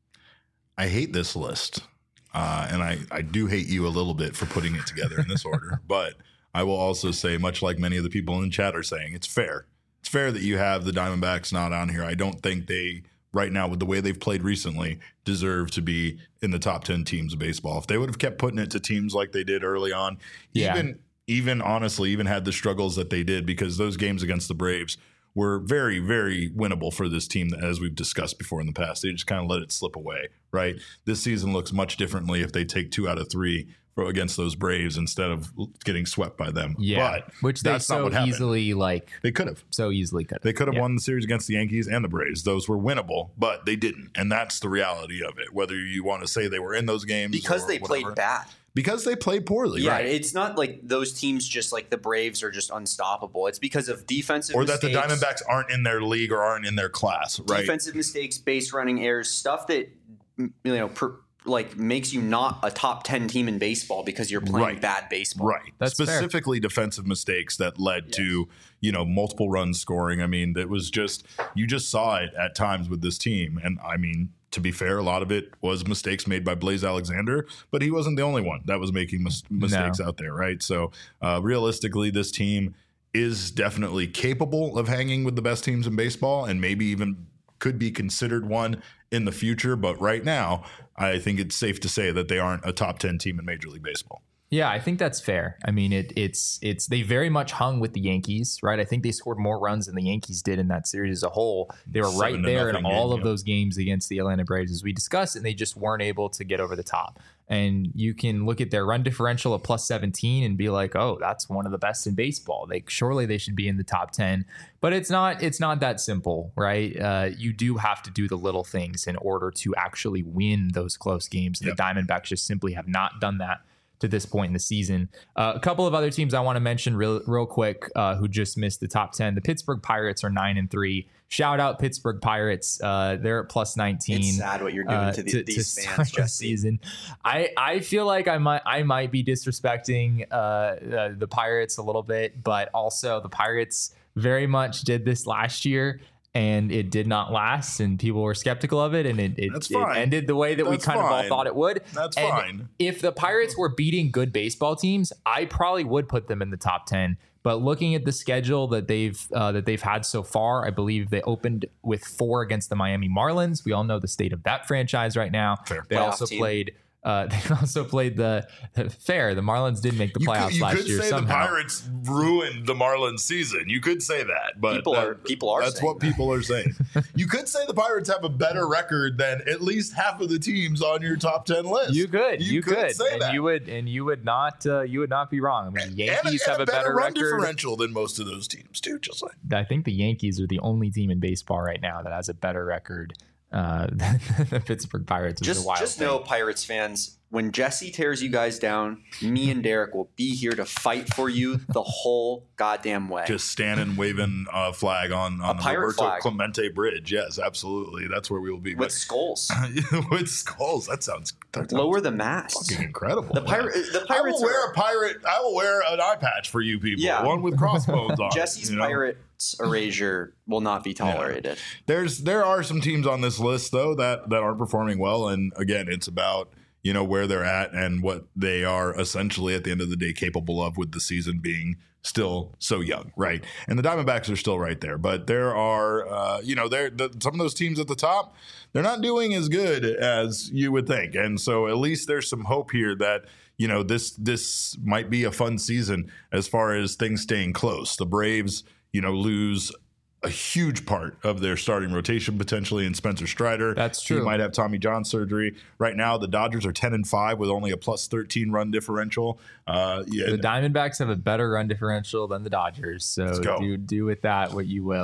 I hate this list. Uh, and I, I do hate you a little bit for putting it together in this order. But I will also say, much like many of the people in the chat are saying, it's fair. It's fair that you have the Diamondbacks not on here. I don't think they, right now, with the way they've played recently, deserve to be in the top ten teams of baseball. If they would have kept putting it to teams like they did early on, yeah. even even honestly, even had the struggles that they did, because those games against the Braves were very, very winnable for this team, as we've discussed before in the past. They just kind of let it slip away, right? This season looks much differently if they take two out of three for, against those Braves instead of getting swept by them. Yeah, but which they that's not so what happened. easily like They could have. so easily could. They could have yeah. won the series against the Yankees and the Braves. Those were winnable, but they didn't. And that's the reality of it. Whether you want to say they were in those games because or they whatever. played bad. Because they played poorly, Yeah, right? it's not like those teams just like the Braves are just unstoppable. It's because of defensive Or that mistakes, the Diamondbacks aren't in their league or aren't in their class, right? defensive mistakes, base running errors, stuff that you know per, like makes you not a top ten team in baseball because you're playing Right. bad baseball. Right. That's fair. Specifically defensive mistakes that led to, you know, multiple runs scoring. I mean, that was just, you just saw it at times with this team. And I mean, to be fair, a lot of it was mistakes made by Blaze Alexander, but he wasn't the only one that was making mis- mistakes No. out there, right? So uh, realistically, this team is definitely capable of hanging with the best teams in baseball and maybe even could be considered one in the future. But right now, I think it's safe to say that they aren't a top ten team in Major League Baseball. Yeah, I think that's fair. I mean, it, it's it's they very much hung with the Yankees, right? I think they scored more runs than the Yankees did in that series as a whole. They were right Seven to there in nothing all game, of yeah. those games against the Atlanta Braves, as we discussed, and they just weren't able to get over the top. And you can look at their run differential of plus seventeen and be like, oh, that's one of the best in baseball. They surely they should be in the top ten. But it's not it's not that simple, right? Uh, you do have to do the little things in order to actually win those close games. And Yep. the Diamondbacks just simply have not done that to this point in the season. Uh, a couple of other teams I want to mention real, real quick uh, who just missed the top ten. The Pittsburgh Pirates are nine and three. Shout out Pittsburgh Pirates. Uh, they're at plus nineteen. It's sad what you're doing uh, to, the, to, these to fans, start the Jesse. season. I, I feel like I might I might be disrespecting uh, uh, the Pirates a little bit, but also the Pirates very much did this last year. And it did not last, and people were skeptical of it, and it, it, That's it fine. ended the way that That's we kind of all fine. thought it would. That's And fine. if the Pirates were beating good baseball teams, I probably would put them in the top ten. But looking at the schedule that they've uh, that they've had so far, I believe they opened with four against the Miami Marlins. We all know the state of that franchise right now. Fair. They Playoff also team. played. Uh, they also played the fair. The Marlins did make the You playoffs could, you last could year say somehow. the Pirates ruined the Marlins season. You could say that, but People that- are- people are That's saying what that. people are saying. You could say the Pirates have a better record than at least half of the teams on your top ten list. You could, you, could, say and that. you would, and you would not, uh, you would not be wrong. I mean, the And- Yankees and, have a better, run record. differential than most of those teams too. Just like I think the Yankees are the only team in baseball right now that has a better record uh, than the Pittsburgh Pirates. Which is Just, a wild just thing. know, Pirates fans, when Jesse tears you guys down, me and Derek will be here to fight for you the whole goddamn way. just standing waving a flag on on A the pirate Roberto flag. Clemente Bridge. Yes, absolutely. That's where we will be. with skulls. But- with skulls. That sounds, that sounds Lower the mast. fucking incredible. The pirate. The I Pirates will wear are, a pirate. I will wear an eye patch for you people. Yeah. One with crossbones on. it, Jesse's you know? Pirates erasure will not be tolerated. There's there are some teams on this list though that that aren't performing well, and again, it's about you know where they're at and what they are essentially at the end of the day capable of with the season being still so young, right? And the Diamondbacks are still right there, but there are uh, you know there the, some of those teams at the top, they're not doing as good as you would think, and so at least there's some hope here that. You know, this this might be a fun season as far as things staying close. The Braves, you know, lose a huge part of their starting rotation potentially in Spencer Strider. That's He true. might have Tommy John surgery. Right now, the Dodgers are ten and five with only a plus thirteen run differential. Uh, yeah, The Diamondbacks have a better run differential than the Dodgers, so go. do do with that what you will.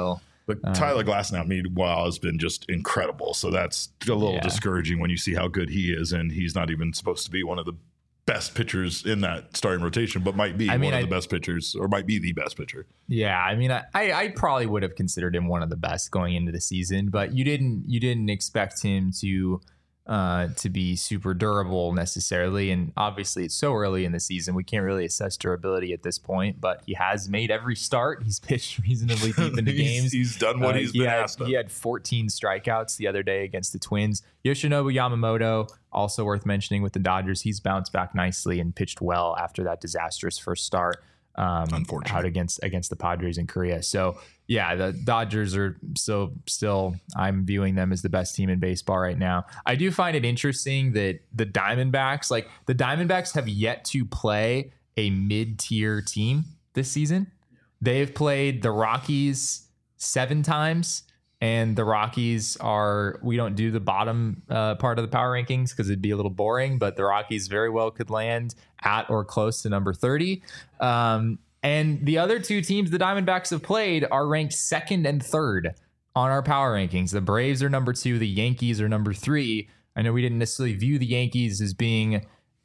But uh, Tyler Glasnow, meanwhile, has been just incredible. So that's a little yeah. discouraging when you see how good he is, and he's not even supposed to be one of the best pitchers in that starting rotation, but might be I mean, one of I, the best pitchers, or might be the best pitcher. Yeah, I mean, I, I probably would have considered him one of the best going into the season, but you didn't you didn't expect him to uh, to be super durable necessarily, and obviously it's so early in the season we can't really assess durability at this point. But he has made every start. He's pitched reasonably deep into he's, games. He's done what uh, he's he been had, asked of. He had fourteen strikeouts the other day against the Twins. Yoshinobu Yamamoto, also worth mentioning with the Dodgers, he's bounced back nicely and pitched well after that disastrous first start um, Unfortunately. out against against the Padres in Korea. So yeah, the Dodgers are so still, I'm viewing them as the best team in baseball right now. I do find it interesting that the Diamondbacks, like the Diamondbacks have yet to play a mid-tier team this season. They've played the Rockies seven times. And the Rockies are, we don't do the bottom uh, part of the power rankings because it'd be a little boring, but the Rockies very well could land at or close to number thirty. Um, and the other two teams the Diamondbacks have played are ranked second and third on our power rankings. The Braves are number two. The Yankees are number three. I know we didn't necessarily view the Yankees as being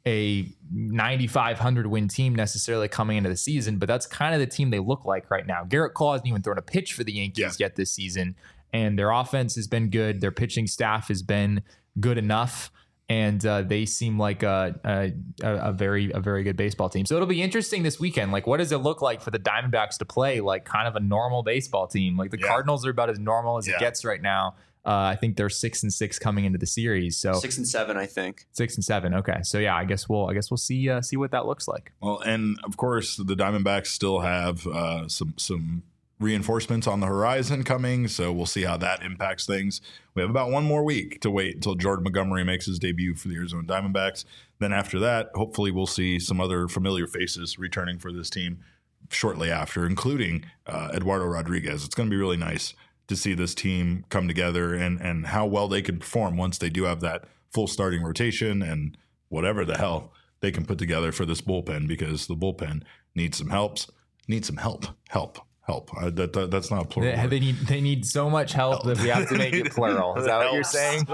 a ninety-five hundred win team necessarily coming into the season, but that's kind of the team they look like right now. Garrett Cole hasn't even thrown a pitch for the Yankees yeah. yet this season. And their offense has been good. Their pitching staff has been good enough, and uh, they seem like a, a a very a very good baseball team. So it'll be interesting this weekend. Like, what does it look like for the Diamondbacks to play like kind of a normal baseball team? Like the yeah. Cardinals are about as normal as yeah. it gets right now. Uh, I think they're six and six coming into the series. So six and seven, I think. Six and seven. Okay, so yeah, I guess we'll I guess we'll see uh, see what that looks like. Well, and of course the Diamondbacks still have uh, some some. reinforcements on the horizon coming, so we'll see how that impacts things. We have about one more week to wait until Jordan Montgomery makes his debut for the Arizona Diamondbacks. Then after that, hopefully we'll see some other familiar faces returning for this team shortly after, including uh, Eduardo Rodriguez. It's going to be really nice to see this team come together and and how well they can perform once they do have that full starting rotation and whatever the hell they can put together for this bullpen, because the bullpen needs some helps, needs some help, help. Help. Uh, that, that that's not a plural. They, they need they need so much help, help that we have to make it plural. Is that what you're saying?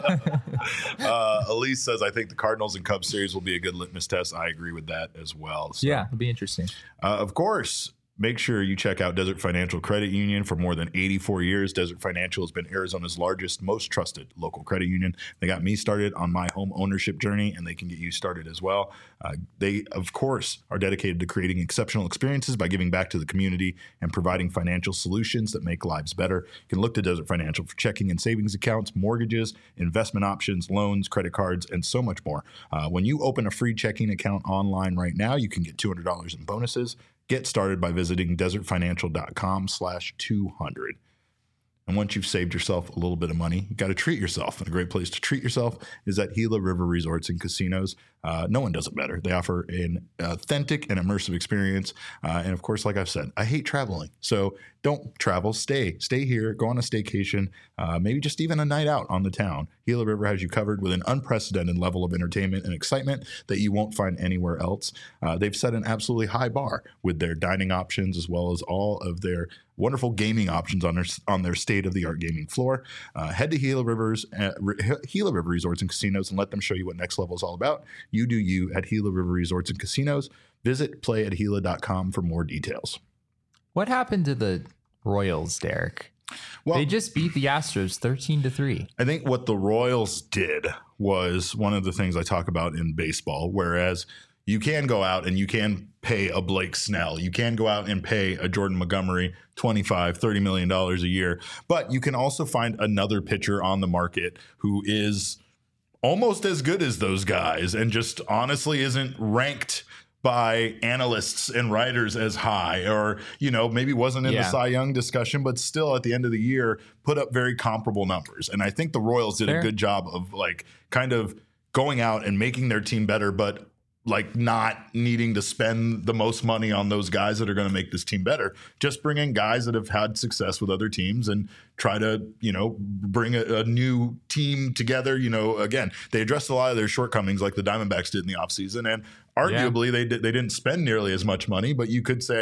uh, Elise says, I think the Cardinals and Cubs series will be a good litmus test. I agree with that as well. So, yeah, it'll be interesting. Uh, of course, make sure you check out Desert Financial Credit Union. For more than eighty-four years, Desert Financial has been Arizona's largest, most trusted local credit union. They got me started on my home ownership journey, and they can get you started as well. Uh, they, of course, are dedicated to creating exceptional experiences by giving back to the community and providing financial solutions that make lives better. You can look to Desert Financial for checking and savings accounts, mortgages, investment options, loans, credit cards, and so much more. Uh, when you open a free checking account online right now, you can get two hundred dollars in bonuses. Get started by visiting desertfinancial.com slash 200. And once you've saved yourself a little bit of money, you got to treat yourself. And a great place to treat yourself is at Gila River Resorts and Casinos. Uh, no one does it better. They offer an authentic and immersive experience. Uh, and of course, like I've said, I hate traveling. So don't travel. Stay. Stay here. Go on a staycation. Uh, maybe just even a night out on the town. Gila River has you covered with an unprecedented level of entertainment and excitement that you won't find anywhere else. Uh, they've set an absolutely high bar with their dining options as well as all of their wonderful gaming options on their on their state-of-the-art gaming floor. Uh, head to Gila Rivers, uh, Gila River Resorts and Casinos and let them show you what next level is all about. You do you at Gila River Resorts and Casinos. Visit play at gila dot com for more details. What happened to the Royals, Derek? Well, they just beat the Astros thirteen to three. I think what the Royals did was one of the things I talk about in baseball, whereas you can go out and you can pay a Blake Snell. You can go out and pay a Jordan Montgomery twenty-five, thirty million dollars a year. But you can also find another pitcher on the market who is almost as good as those guys and just honestly isn't ranked by analysts and writers as high, or, you know, maybe wasn't in yeah. the Cy Young discussion, but still at the end of the year put up very comparable numbers. And I think the Royals did Fair. a good job of like kind of going out and making their team better, but like not needing to spend the most money on those guys that are going to make this team better. Just bring in guys that have had success with other teams and try to, you know, bring a, a new team together. You know, again, they addressed a lot of their shortcomings like the Diamondbacks did in the offseason. And arguably yeah. they did, they didn't spend nearly as much money, but you could say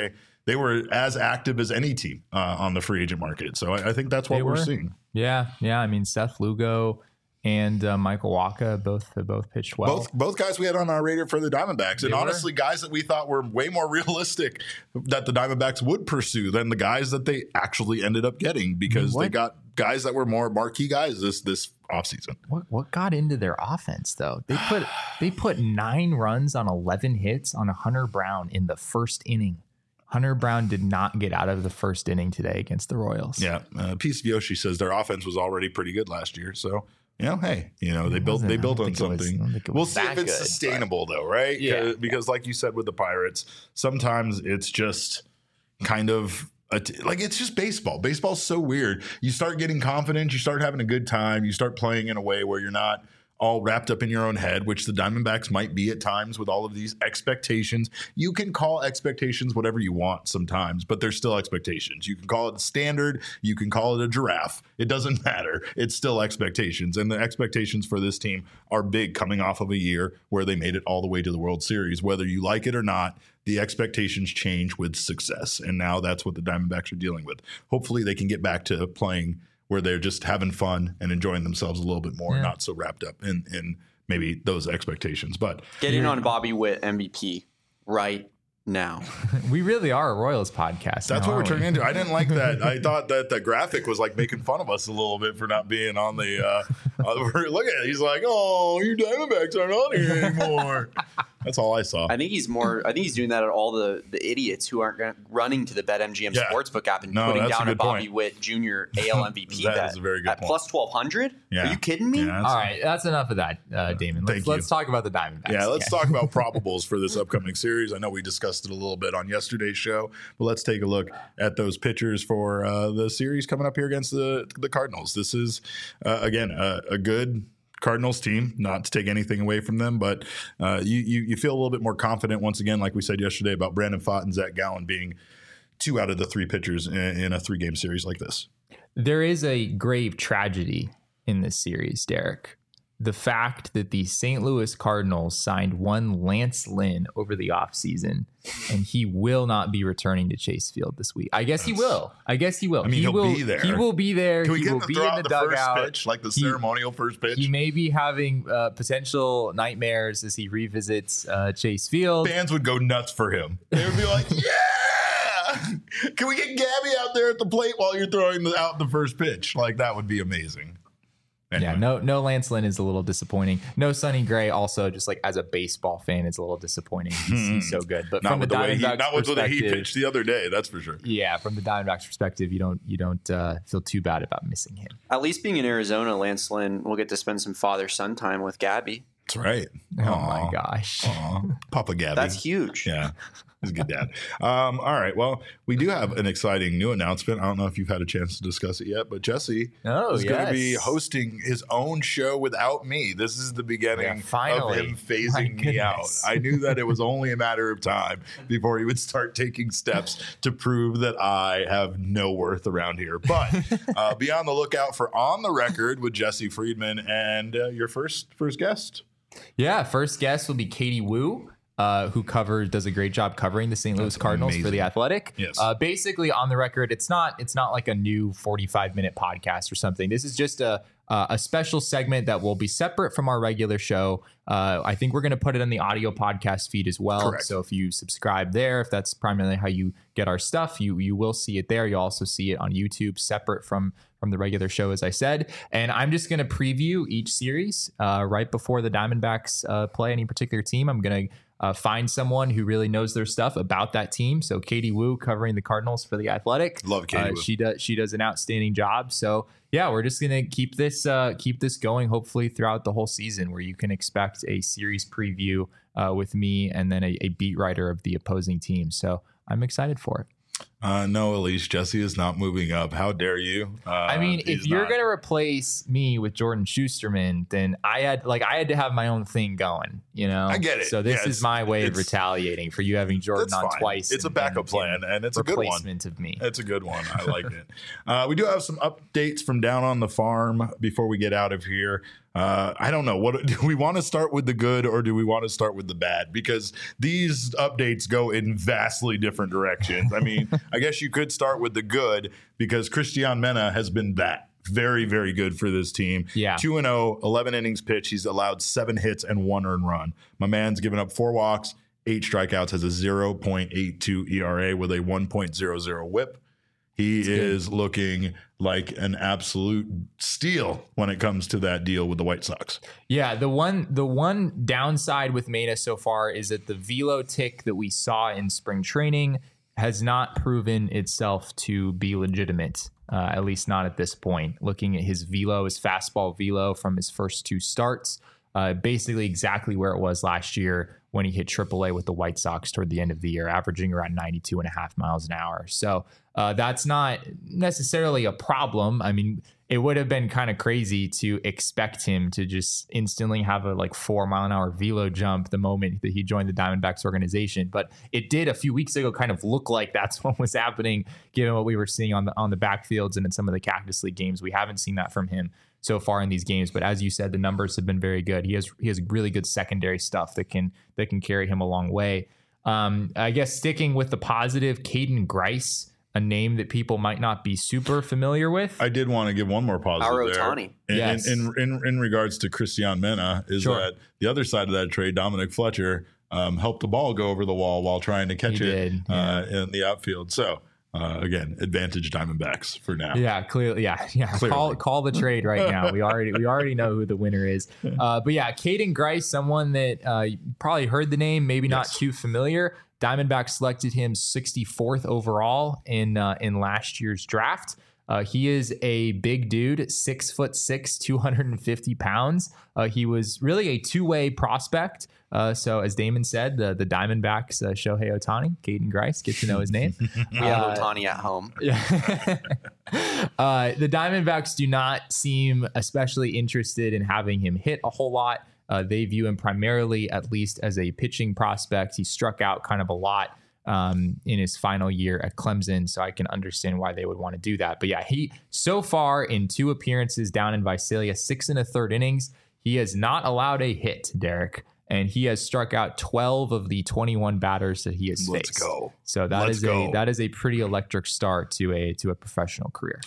they were as active as any team uh, on the free agent market. So I, I think that's what They we're were. seeing. Yeah, yeah. I mean, Seth Lugo and uh, Michael Wacha both uh, both pitched well. Both both guys we had on our radar for the Diamondbacks, and They honestly, were. guys that we thought were way more realistic that the Diamondbacks would pursue than the guys that they actually ended up getting, because What? they got guys that were more marquee guys this this offseason. What what got into their offense though? They put they put nine runs on eleven hits on Hunter Brown in the first inning. Hunter Brown did not get out of the first inning today against the Royals. Yeah, uh, Piece of Yoshi says their offense was already pretty good last year, so. You know, hey, you know, they It built wasn't- they I built don't on think it was- I something. don't think it We'll was see if that it's good, sustainable though, right? Yeah, because, because like you said with the Pirates, sometimes it's just kind of a t- like it's just baseball. Baseball's so weird. You start getting confidence, you start having a good time, you start playing in a way where you're not all wrapped up in your own head, which the Diamondbacks might be at times with all of these expectations. You can call expectations whatever you want sometimes, but they're still expectations. You can call it a standard, you can call it a giraffe. It doesn't matter. It's still expectations. And the expectations for this team are big, coming off of a year where they made it all the way to the World Series. Whether you like it or not, the expectations change with success. And now that's what the Diamondbacks are dealing with. Hopefully they can get back to playing where they're just having fun and enjoying themselves a little bit more, Yeah. and not so wrapped up in, in maybe those expectations. But Get in on Bobby Witt M V P right now. We really are a Royals podcast. that's now, what we're aren't we? turning into. I didn't like that. I thought that the graphic was like making fun of us a little bit for not being on the uh, uh look at it. He's like, oh, you Diamondbacks aren't on here anymore. That's all I saw. I think he's more. I think he's doing that at all the, the idiots who aren't gonna- running to the BetMGM Yeah. Sportsbook app and No, putting that's a down a good Bobby point. Witt Junior A L M V P That bet is a very good at point. plus twelve hundred. Yeah. Are you kidding me? Yeah, that's- All right, that's enough of that, uh, Damon. Let's, Thank you. let's talk about the Diamondbacks. Yeah, let's again. talk about probables for this upcoming series. I know we discussed it a little bit on yesterday's show, but let's take a look at those pitchers for uh, the series coming up here against the the Cardinals. This is uh, again a, a good Cardinals team, not to take anything away from them, but uh, you, you you feel a little bit more confident once again, like we said yesterday, about Brandon Pfaadt and Zach Gallen being two out of the three pitchers in, in a three game series like this. There is a grave tragedy in this series, Derek. The fact that the Saint Louis Cardinals signed one Lance Lynn over the offseason, and he will not be returning to Chase Field this week. I guess he will. I guess he will. I mean, he he'll will, be there. He will be there. Can we he get will him to be throw in out the, the dugout. first pitch, like the He- ceremonial first pitch? He may be having uh, potential nightmares as he revisits uh, Chase Field. Fans would go nuts for him. They would be like, yeah! Can we get Gabby out there at the plate while you're throwing the, out the first pitch? Like, that would be amazing. Anyway. Yeah, no, no Lance Lynn is a little disappointing. No Sonny Gray also, just like as a baseball fan, it's a little disappointing. He's, he's so good, but Not from the with the way he, Diamondbacks not with the way he perspective, pitched the other day, that's for sure. yeah, from the Diamondbacks perspective, you don't you don't uh, feel too bad about missing him. At least being in Arizona, Lance Lynn will get to spend some father son time with Gabby. That's right. Oh Aw. my gosh. Aw. Papa Gabby. That's huge. Yeah. He's a good dad. Um, all right. Well, we do have an exciting new announcement. I don't know if you've had a chance to discuss it yet, but Jesse Oh, is going to be yes. hosting his own show without me. This is the beginning Yeah, finally. of him phasing My me out. goodness. I knew that it was only a matter of time before he would start taking steps to prove that I have no worth around here. But uh, be on the lookout for On the Record with Jesse Friedman and uh, your first first guest. Yeah, first guest will be Katie Wu. Uh, who covers does a great job covering the Saint Louis That's Cardinals for amazing. the Athletic. Yes. Uh, basically, On the Record, it's not it's not like a new forty-five minute podcast or something. This is just a uh, a special segment that will be separate from our regular show. Uh, I think we're going to put it on the audio podcast feed as well. Correct. So if you subscribe there, if that's primarily how you get our stuff, you you will see it there. You'll also see it on YouTube, separate from from the regular show, as I said. And I'm just going to preview each series uh, right before the Diamondbacks uh, play any particular team. I'm going to Uh, find someone who really knows their stuff about that team. So Katie Wu covering the Cardinals for the Athletic. Love Katie Uh, Wu. she does she does an outstanding job. So yeah, we're just gonna keep this uh, keep this going. Hopefully throughout the whole season, where you can expect a series preview uh, with me and then a, a beat writer of the opposing team. So I'm excited for it. Uh, no, Elise, Jesse is not moving up. How dare you? Uh, I mean, if he's you're not. gonna replace me with Jordan Schusterman, then I had like I had to have my own thing going. You know, I get it. So this Yeah, is my way of it's- retaliating for you having Jordan That's on fine. twice. It's a and- backup and- plan, and it's a good one. replacement of me. It's a good one. I like it. Uh, we do have some updates from down on the farm before we get out of here. Uh, I don't know. What do we want to start with the good or do we want to start with the bad? Because these updates go in vastly different directions. I mean, I guess you could start with the good because Cristian Mena has been that very, very good for this team. Yeah. two and oh, eleven innings pitched. He's allowed seven hits and one earned run. My man's given up four walks, eight strikeouts, has a zero point eight two E R A with a one point oh oh whip. He That's is good. Looking like an absolute steal when it comes to that deal with the White Sox. Yeah, the one the one downside with Mena so far is that the velo tick that we saw in spring training has not proven itself to be legitimate, uh, at least not at this point. Looking at his velo, his fastball velo from his first two starts, uh, basically exactly where it was last year when he hit triple A with the White Sox toward the end of the year, averaging around ninety-two and a half miles an hour. So uh, that's not necessarily a problem. I mean, it would have been kind of crazy to expect him to just instantly have a like four mile an hour velo jump the moment that he joined the Diamondbacks organization. But it did a few weeks ago kind of look like that's what was happening, given what we were seeing on the on the backfields and in some of the Cactus League games. We haven't seen that from him so far in these games, but as you said, the numbers have been very good. He has he has really good secondary stuff that can that can carry him a long way. Um, I guess sticking with the positive, Caden Grice, a name that people might not be super familiar with. I did want to give one more positive Our there. Ohtani. In, yes. in, in, in regards to Cristian Mena, is Sure. that the other side of that trade, Dominic Fletcher, um, helped the ball go over the wall while trying to catch He it did, yeah. uh, in the outfield. So, uh, again, advantage Diamondbacks for now. Yeah, clearly. Yeah, yeah. Clearly. Call call the trade right now. We already we already know who the winner is. Uh, but yeah, Caden Grice, someone that uh, you probably heard the name, maybe not Yes. too familiar. Diamondbacks selected him sixty-fourth overall in uh, in last year's draft. Uh, he is a big dude, six foot six, two hundred fifty pounds. Uh, he was really a two-way prospect. Uh, so as Damon said, the the Diamondbacks, uh, Shohei Ohtani, Caden Grice, get to know his name. We have Uh, Ohtani at home. Yeah. uh, the Diamondbacks do not seem especially interested in having him hit a whole lot. Uh, they view him primarily, at least, as a pitching prospect. He struck out kind of a lot um, in his final year at Clemson, so I can understand why they would want to do that. But yeah, he so far in two appearances down in Visalia, six and a third innings, he has not allowed a hit, Derek, and he has struck out twelve of the twenty-one batters that he has Let's faced. go. So that Let's is go. a that is a pretty electric start to a to a professional career.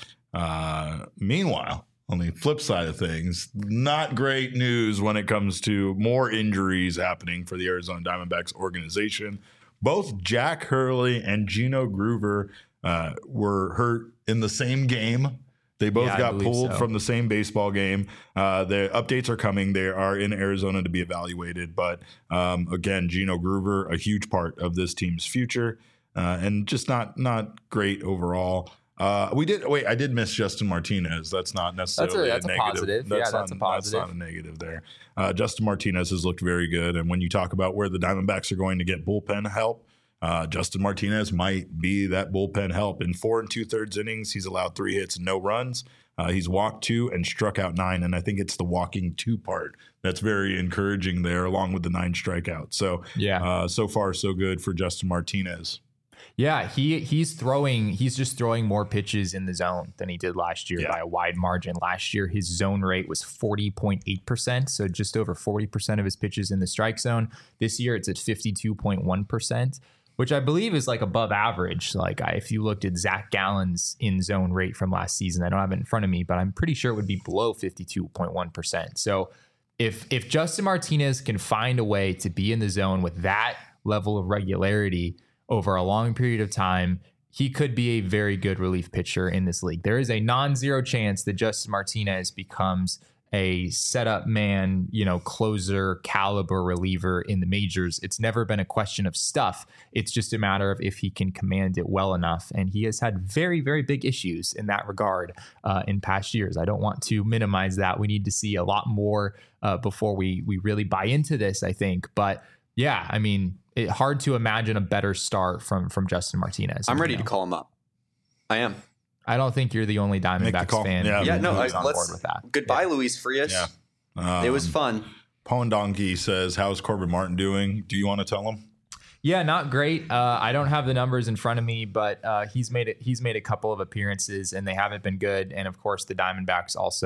Uh, meanwhile, on the flip side of things, not great news when it comes to more injuries happening for the Arizona Diamondbacks organization. Both Jack Hurley and Gino Groover uh, were hurt in the same game. They both Yeah, I got believe pulled so. from the same baseball game. Uh, the updates are coming. They are in Arizona to be evaluated. But um, again, Gino Groover, a huge part of this team's future, uh, and just not not great overall. Uh, we did wait. I did miss Justin Martinez. That's not necessarily that's a negative. positive. Yeah, that's not, a positive. That's not a negative there. Uh, Justin Martinez has looked very good. And when you talk about where the Diamondbacks are going to get bullpen help, uh, Justin Martinez might be that bullpen help. In four and two thirds innings, he's allowed three hits and no runs. Uh, he's walked two and struck out nine. And I think it's the walking two part that's very encouraging there, along with the nine strikeouts. So Yeah. uh, so far so good for Justin Martinez. Yeah, he he's throwing he's just throwing more pitches in the zone than he did last year Yeah. by a wide margin. Last year his zone rate was forty point eight percent, so just over forty percent of his pitches in the strike zone. This year it's at fifty-two point one percent, which I believe is like above average. Like I, if you looked at Zach Gallen's in zone rate from last season, I don't have it in front of me, but I'm pretty sure it would be below fifty-two point one percent. So if if Justin Martinez can find a way to be in the zone with that level of regularity over a long period of time, he could be a very good relief pitcher in this league. There is a non-zero chance that Justin Martinez becomes a setup man, you know, closer caliber reliever in the majors. It's never been a question of stuff. It's just a matter of if he can command it well enough. And he has had very, very big issues in that regard uh, in past years. I don't want to minimize that. We need to see a lot more uh, before we we really buy into this, I think. But yeah, I mean, it hard to imagine a better start from from Justin Martinez. I'm ready you know? to call him up. I am. I don't think you're the only Make the Diamondbacks call. fan. Yeah. Yeah, no, I, who's on let's. board with that. Goodbye, Yeah. Luis Frias. Yeah. Um, It was fun. Pawn Donkey says, how's Corbin Martin doing? Do you want to tell him? Yeah, not great. Uh, I don't have the numbers in front of me, but uh, he's made it. He's made a couple of appearances, and they haven't been good. And of course, the Diamondbacks also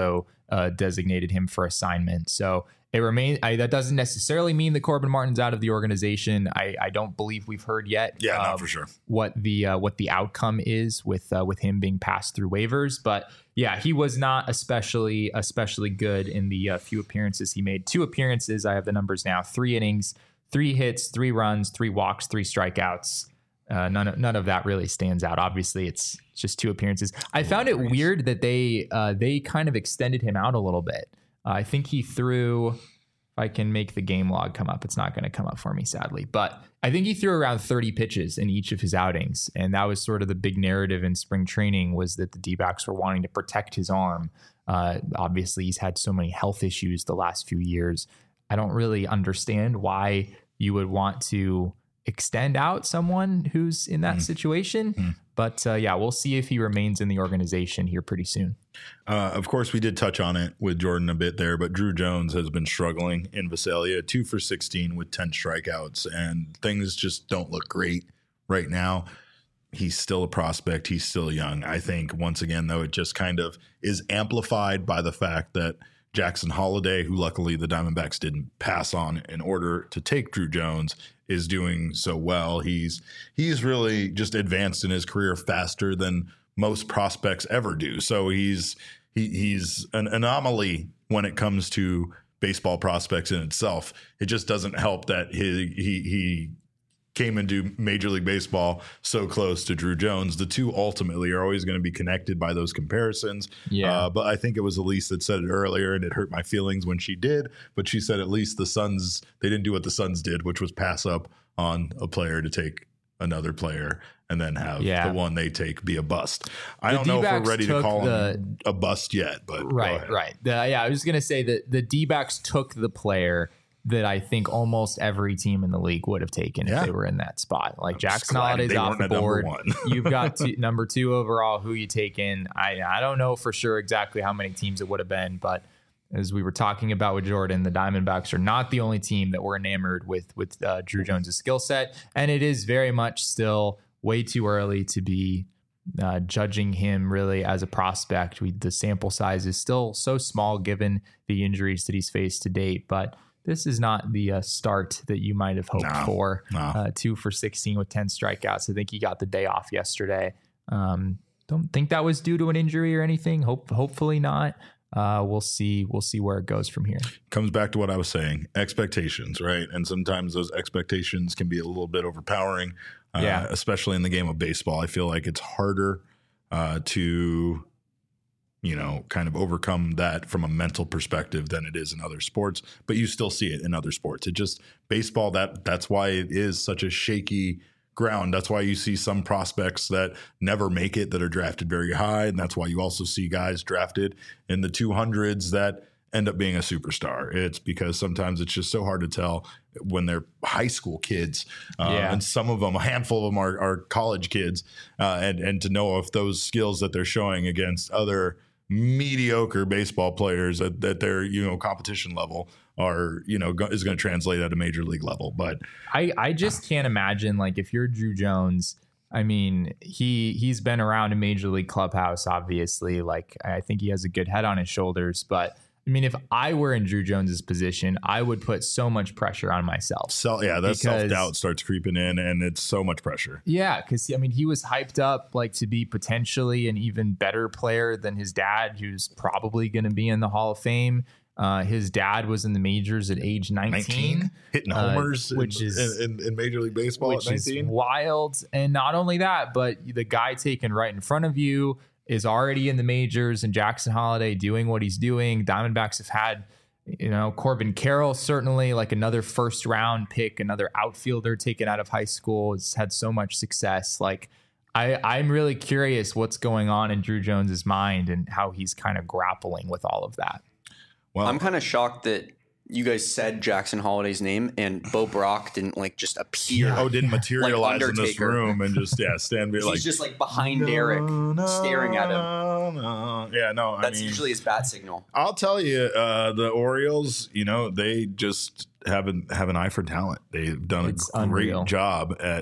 uh, designated him for assignment. So it remains. I, that doesn't necessarily mean that Corbin Martin's out of the organization. I, I don't believe we've heard yet. Yeah, um, not for sure. What the uh, what the outcome is with uh, with him being passed through waivers, but yeah, he was not especially especially good in the uh, few appearances he made. Two appearances. I have the numbers now. Three innings, three hits, three runs, three walks, three strikeouts. Uh, none of none of that really stands out. Obviously, it's just two appearances. I found it weird that they uh, they kind of extended him out a little bit. Uh, I think he threw, if I can make the game log come up, it's not going to come up for me, sadly. But I think he threw around thirty pitches in each of his outings. And that was sort of the big narrative in spring training, was that the D-backs were wanting to protect his arm. Uh, obviously, he's had so many health issues the last few years. I don't really understand why you would want to extend out someone who's in that mm. situation. Mm. But uh, yeah, we'll see if he remains in the organization here pretty soon. Uh, of course, we did touch on it with Jordan a bit there, but Drew Jones has been struggling in Visalia, two for sixteen with ten strikeouts, and things just don't look great right now. He's still a prospect. He's still young. I think, once again, though, it just kind of is amplified by the fact that Jackson Holliday, who luckily the Diamondbacks didn't pass on in order to take Drew Jones, is doing so well. He's he's really just advanced in his career faster than most prospects ever do. So he's he, he's an anomaly when it comes to baseball prospects in itself. It just doesn't help that he he he came into Major League Baseball so close to Drew Jones. The two ultimately are always going to be connected by those comparisons. Yeah. Uh, but I think it was Elise that said it earlier, and it hurt my feelings when she did. But she said at least the Suns, they didn't do what the Suns did, which was pass up on a player to take another player and then have yeah. the one they take be a bust. I the don't know D-backs if we're ready to call the, him a bust yet, but right, right. The, yeah, I was going to say that the D-backs took the player that I think almost every team in the league would have taken yeah. if they were in that spot. Like Jackson Holliday's off the board. You've got two, number two overall. Who you take in? I I don't know for sure exactly how many teams it would have been, but as we were talking about with Jordan, the Diamondbacks are not the only team that were enamored with with uh, Drew Jones' skill set, and it is very much still way too early to be uh, judging him really as a prospect. We, the sample size is still so small given the injuries that he's faced to date, but this is not the uh, start that you might have hoped no, for. No. Uh, two for sixteen with ten strikeouts. I think he got the day off yesterday. Um, don't think that was due to an injury or anything. Hope, hopefully not. Uh, we'll see. We'll see where it goes from here. Comes back to what I was saying: expectations, right? And sometimes those expectations can be a little bit overpowering. Uh, yeah. Especially in the game of baseball, I feel like it's harder uh, to. you know, kind of overcome that from a mental perspective than it is in other sports, but you still see it in other sports. It just baseball, that that's why it is such a shaky ground. That's why you see some prospects that never make it that are drafted very high. And that's why you also see guys drafted in the two hundreds that end up being a superstar. It's because sometimes it's just so hard to tell when they're high school kids. Uh, yeah. And some of them, a handful of them are, are college kids. Uh, and, and to know if those skills that they're showing against other mediocre baseball players at, at their, you know, competition level are, you know, go, is going to translate at a major league level. But I, I just can't imagine, like, if you're Drew Jones, I mean, he, he's been around a major league clubhouse, obviously. Like, I think he has a good head on his shoulders, but I mean, if I were in Drew Jones's position, I would put so much pressure on myself. So yeah, that self-doubt starts creeping in, and it's so much pressure. Yeah, because I mean, he was hyped up like to be potentially an even better player than his dad, who's probably going to be in the Hall of Fame. Uh, his dad was in the majors at age nineteen, nineteen hitting homers, uh, which in, is in, in Major League Baseball, which at nineteen. Is wild. And not only that, but the guy taken right in front of you is already in the majors, and Jackson Holliday doing what he's doing. Diamondbacks have had, you know, Corbin Carroll, certainly like another first round pick, another outfielder taken out of high school. Has had so much success. Like, I, I'm really curious what's going on in Drew Jones's mind and how he's kind of grappling with all of that. Well, I'm kind of shocked that you guys said Jackson Holliday's name and Bo Brock didn't like just appear. Oh, didn't materialize like in this room and just yeah stand be He's like just like behind no, Derek, no, staring at him. No. Yeah, no, that's I mean, usually his bat signal. I'll tell you, uh, the Orioles, you know, they just have an have an eye for talent. They've done it's a great unreal. job at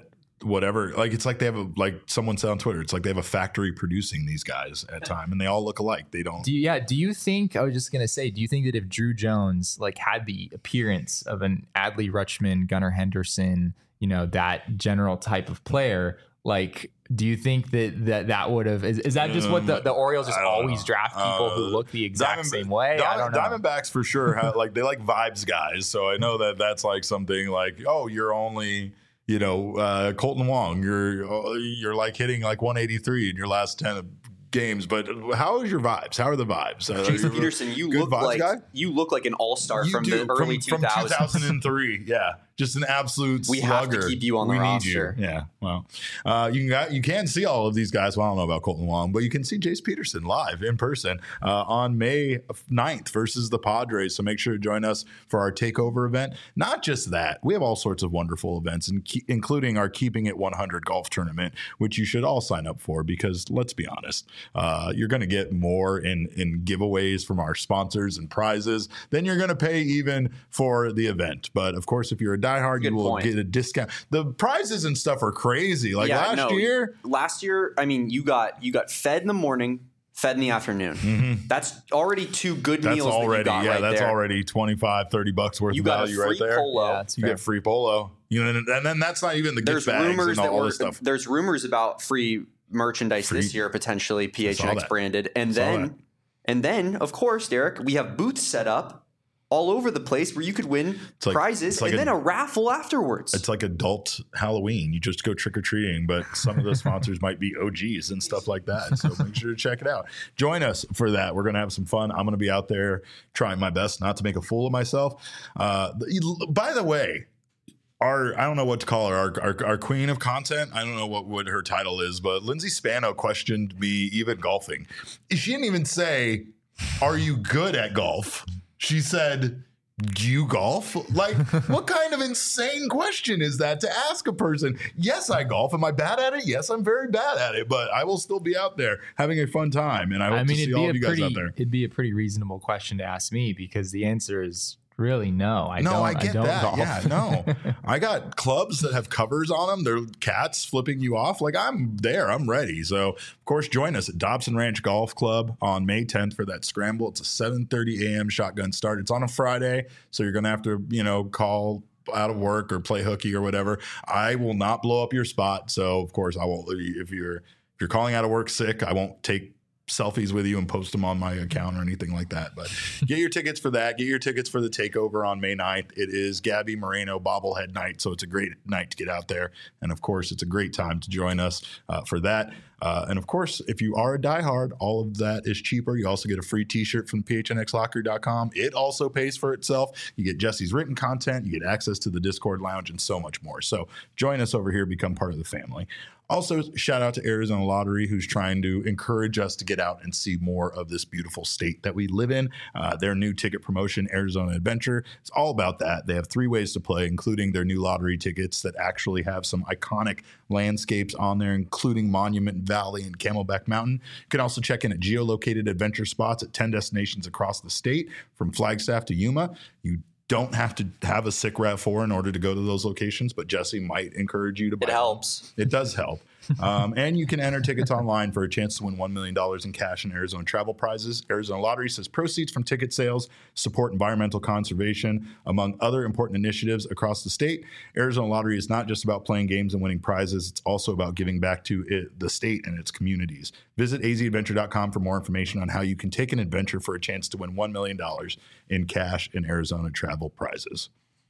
whatever. Like it's like they have a, like someone said on Twitter, it's like they have a factory producing these guys at time, and they all look alike. They don't. Do you, yeah. Do you think? I was just gonna say. Do you think that if Drew Jones like had the appearance of an Adley Rutschman, Gunnar Henderson, you know, that general type of player, like, do you think that that, that would have? Is, is that just what the, the Orioles just always know. draft people uh, who look the exact Diamond, same way? Diamond, I don't know. Diamondbacks for sure have, like they like vibes guys, so I know that that's like something like, oh, you're only. You know, uh, Colton Wong, you're you're like hitting like one eighty-three in your last ten games. But how is your vibes? How are the vibes? Uh, Jason Peterson, you look like guy? you look like an all star from do, the early from, two thousands. From two thousand three, yeah, just an absolute. We slugger. have to keep you on the we roster. Need you. Yeah, well, uh, you can you can see all of these guys. Well, I don't know about Colton Wong, but you can see Jace Peterson live in person uh, on May ninth versus the Padres. So make sure to join us for our takeover event. Not just that, we have all sorts of wonderful events, and ke- including our Keeping It one hundred golf tournament, which you should all sign up for because let's be honest, uh, you're going to get more in in giveaways from our sponsors and prizes than you're going to pay even for the event. But of course, if you're a diehard, Good you will point. get a discount. The prizes and stuff are crazy. Like yeah, last no, year, last year, I mean, you got you got fed in the morning, fed in the afternoon. Mm-hmm. That's already two good that's meals. Already, that you got yeah, right that's there. already twenty-five, thirty bucks worth you of got value a free right there. Polo. Yeah, you get free polo. You know, and, and then that's not even the there's gift bags rumors and all that this stuff. There's rumors about free merchandise free. this year, potentially P H N X branded, and then that. and then of course, Derek, we have booths set up all over the place where you could win like, prizes like and a, then a raffle afterwards. It's like adult Halloween. You just go trick-or-treating, but some of the sponsors might be O Gs and stuff like that. So make sure to check it out. Join us for that. We're going to have some fun. I'm going to be out there trying my best not to make a fool of myself. Uh, by the way, Our, I don't know what to call her, our, our our queen of content. I don't know what, what her title is, but Lindsay Spano questioned me even golfing. She didn't even say, are you good at golf? She said, do you golf? Like, what kind of insane question is that to ask a person? Yes, I golf. Am I bad at it? Yes, I'm very bad at it, but I will still be out there having a fun time. And I hope I mean, to see all of you pretty, guys out there. It'd be a pretty reasonable question to ask me because the answer is really no. I no, don't, I get I don't that. golf. Yeah, no. I got clubs that have covers on them. They're cats flipping you off. Like I'm there. I'm ready. So of course, join us at Dobson Ranch Golf Club on May tenth for that scramble. It's a seven thirty a.m. shotgun start. It's on a Friday, so you're gonna have to, you know, call out of work or play hooky or whatever. I will not blow up your spot. So of course, I won't. If you're if you're calling out of work sick, I won't take selfies with you and post them on my account or anything like that. But get your tickets for that. Get your tickets for the takeover on May ninth. It is Gabby Moreno bobblehead night, so it's a great night to get out there. And of course, it's a great time to join us uh, for that. Uh, and of course, if you are a diehard, all of that is cheaper. You also get a free t-shirt from P H N X locker dot com. It also pays for itself. You get Jesse's written content. You get access to the Discord lounge and so much more. So join us over here. Become part of the family. Also, shout out to Arizona Lottery, who's trying to encourage us to get out and see more of this beautiful state that we live in. Uh, their new ticket promotion, Arizona Adventure, it's all about that. They have three ways to play, including their new lottery tickets that actually have some iconic landscapes on there, including Monument Valley and Camelback Mountain. You can also check in at geolocated adventure spots at ten destinations across the state, from Flagstaff to Yuma. You don't have to have a S I C R A V four in order to go to those locations, but Jesse might encourage you to buy It helps. Them. It does help. um, and you can enter tickets online for a chance to win one million dollars in cash and Arizona travel prizes. Arizona Lottery says proceeds from ticket sales support environmental conservation, among other important initiatives across the state. Arizona Lottery is not just about playing games and winning prizes. It's also about giving back to it, the state and its communities. Visit a z adventure dot com for more information on how you can take an adventure for a chance to win one million dollars in cash and Arizona travel prizes.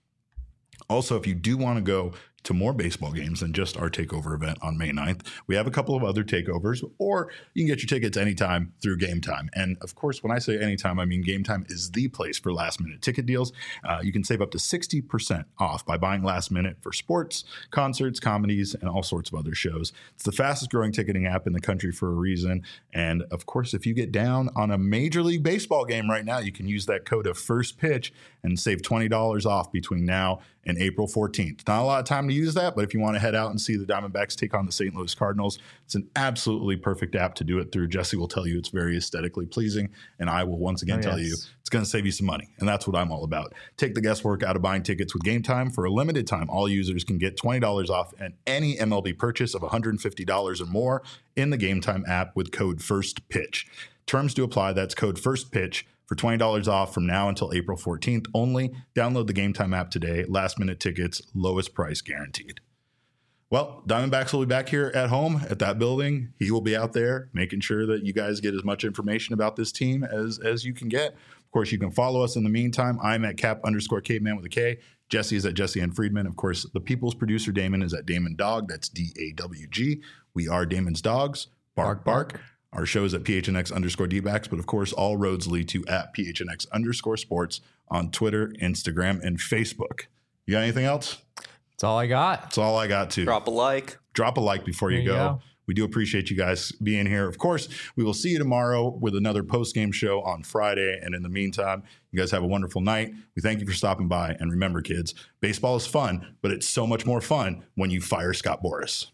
Also, if you do want to go to more baseball games than just our takeover event on May ninth, we have a couple of other takeovers, or you can get your tickets anytime through Game Time. And of course, when I say anytime, I mean Game Time is the place for last minute ticket deals. Uh, you can save up to sixty percent off by buying last minute for sports, concerts, comedies, and all sorts of other shows. It's the fastest growing ticketing app in the country for a reason. And of course, if you get down on a Major League Baseball game right now, you can use that code of first pitch and save twenty dollars off between now and April fourteenth. Not a lot of time to to use that, but if you want to head out and see the Diamondbacks take on the Saint Louis Cardinals, it's an absolutely perfect app to do it through. Jesse will tell you it's very aesthetically pleasing, and I will once again oh, tell yes. you it's going to save you some money, and that's what I'm all about. Take the guesswork out of buying tickets with Game Time. For a limited time, all users can get twenty dollars off at any M L B purchase of one hundred fifty dollars or more in the Game Time app with code FIRSTPITCH. Terms do apply. That's code FIRSTPITCH for twenty dollars off from now until April fourteenth only. Download the Game Time app today. Last minute tickets, lowest price guaranteed. Well, Diamondbacks will be back here at home at that building. He will be out there making sure that you guys get as much information about this team as, as you can get. Of course, you can follow us in the meantime. I'm at cap underscore caveman with a K. Jesse is at Jesse N. Friedman. Of course, the people's producer, Damon, is at Damon Dog. That's D A W G. We are Damon's Dogs. Bark, bark. bark. Our show is at P H N X underscore D-backs, but of course, all roads lead to at P H N X underscore sports on Twitter, Instagram, and Facebook. You got anything else? That's all I got. That's all I got, too. Drop a like. Drop a like before you, you go. go. We do appreciate you guys being here. Of course, we will see you tomorrow with another post-game show on Friday. And in the meantime, you guys have a wonderful night. We thank you for stopping by. And remember, kids, baseball is fun, but it's so much more fun when you fire Scott Boras.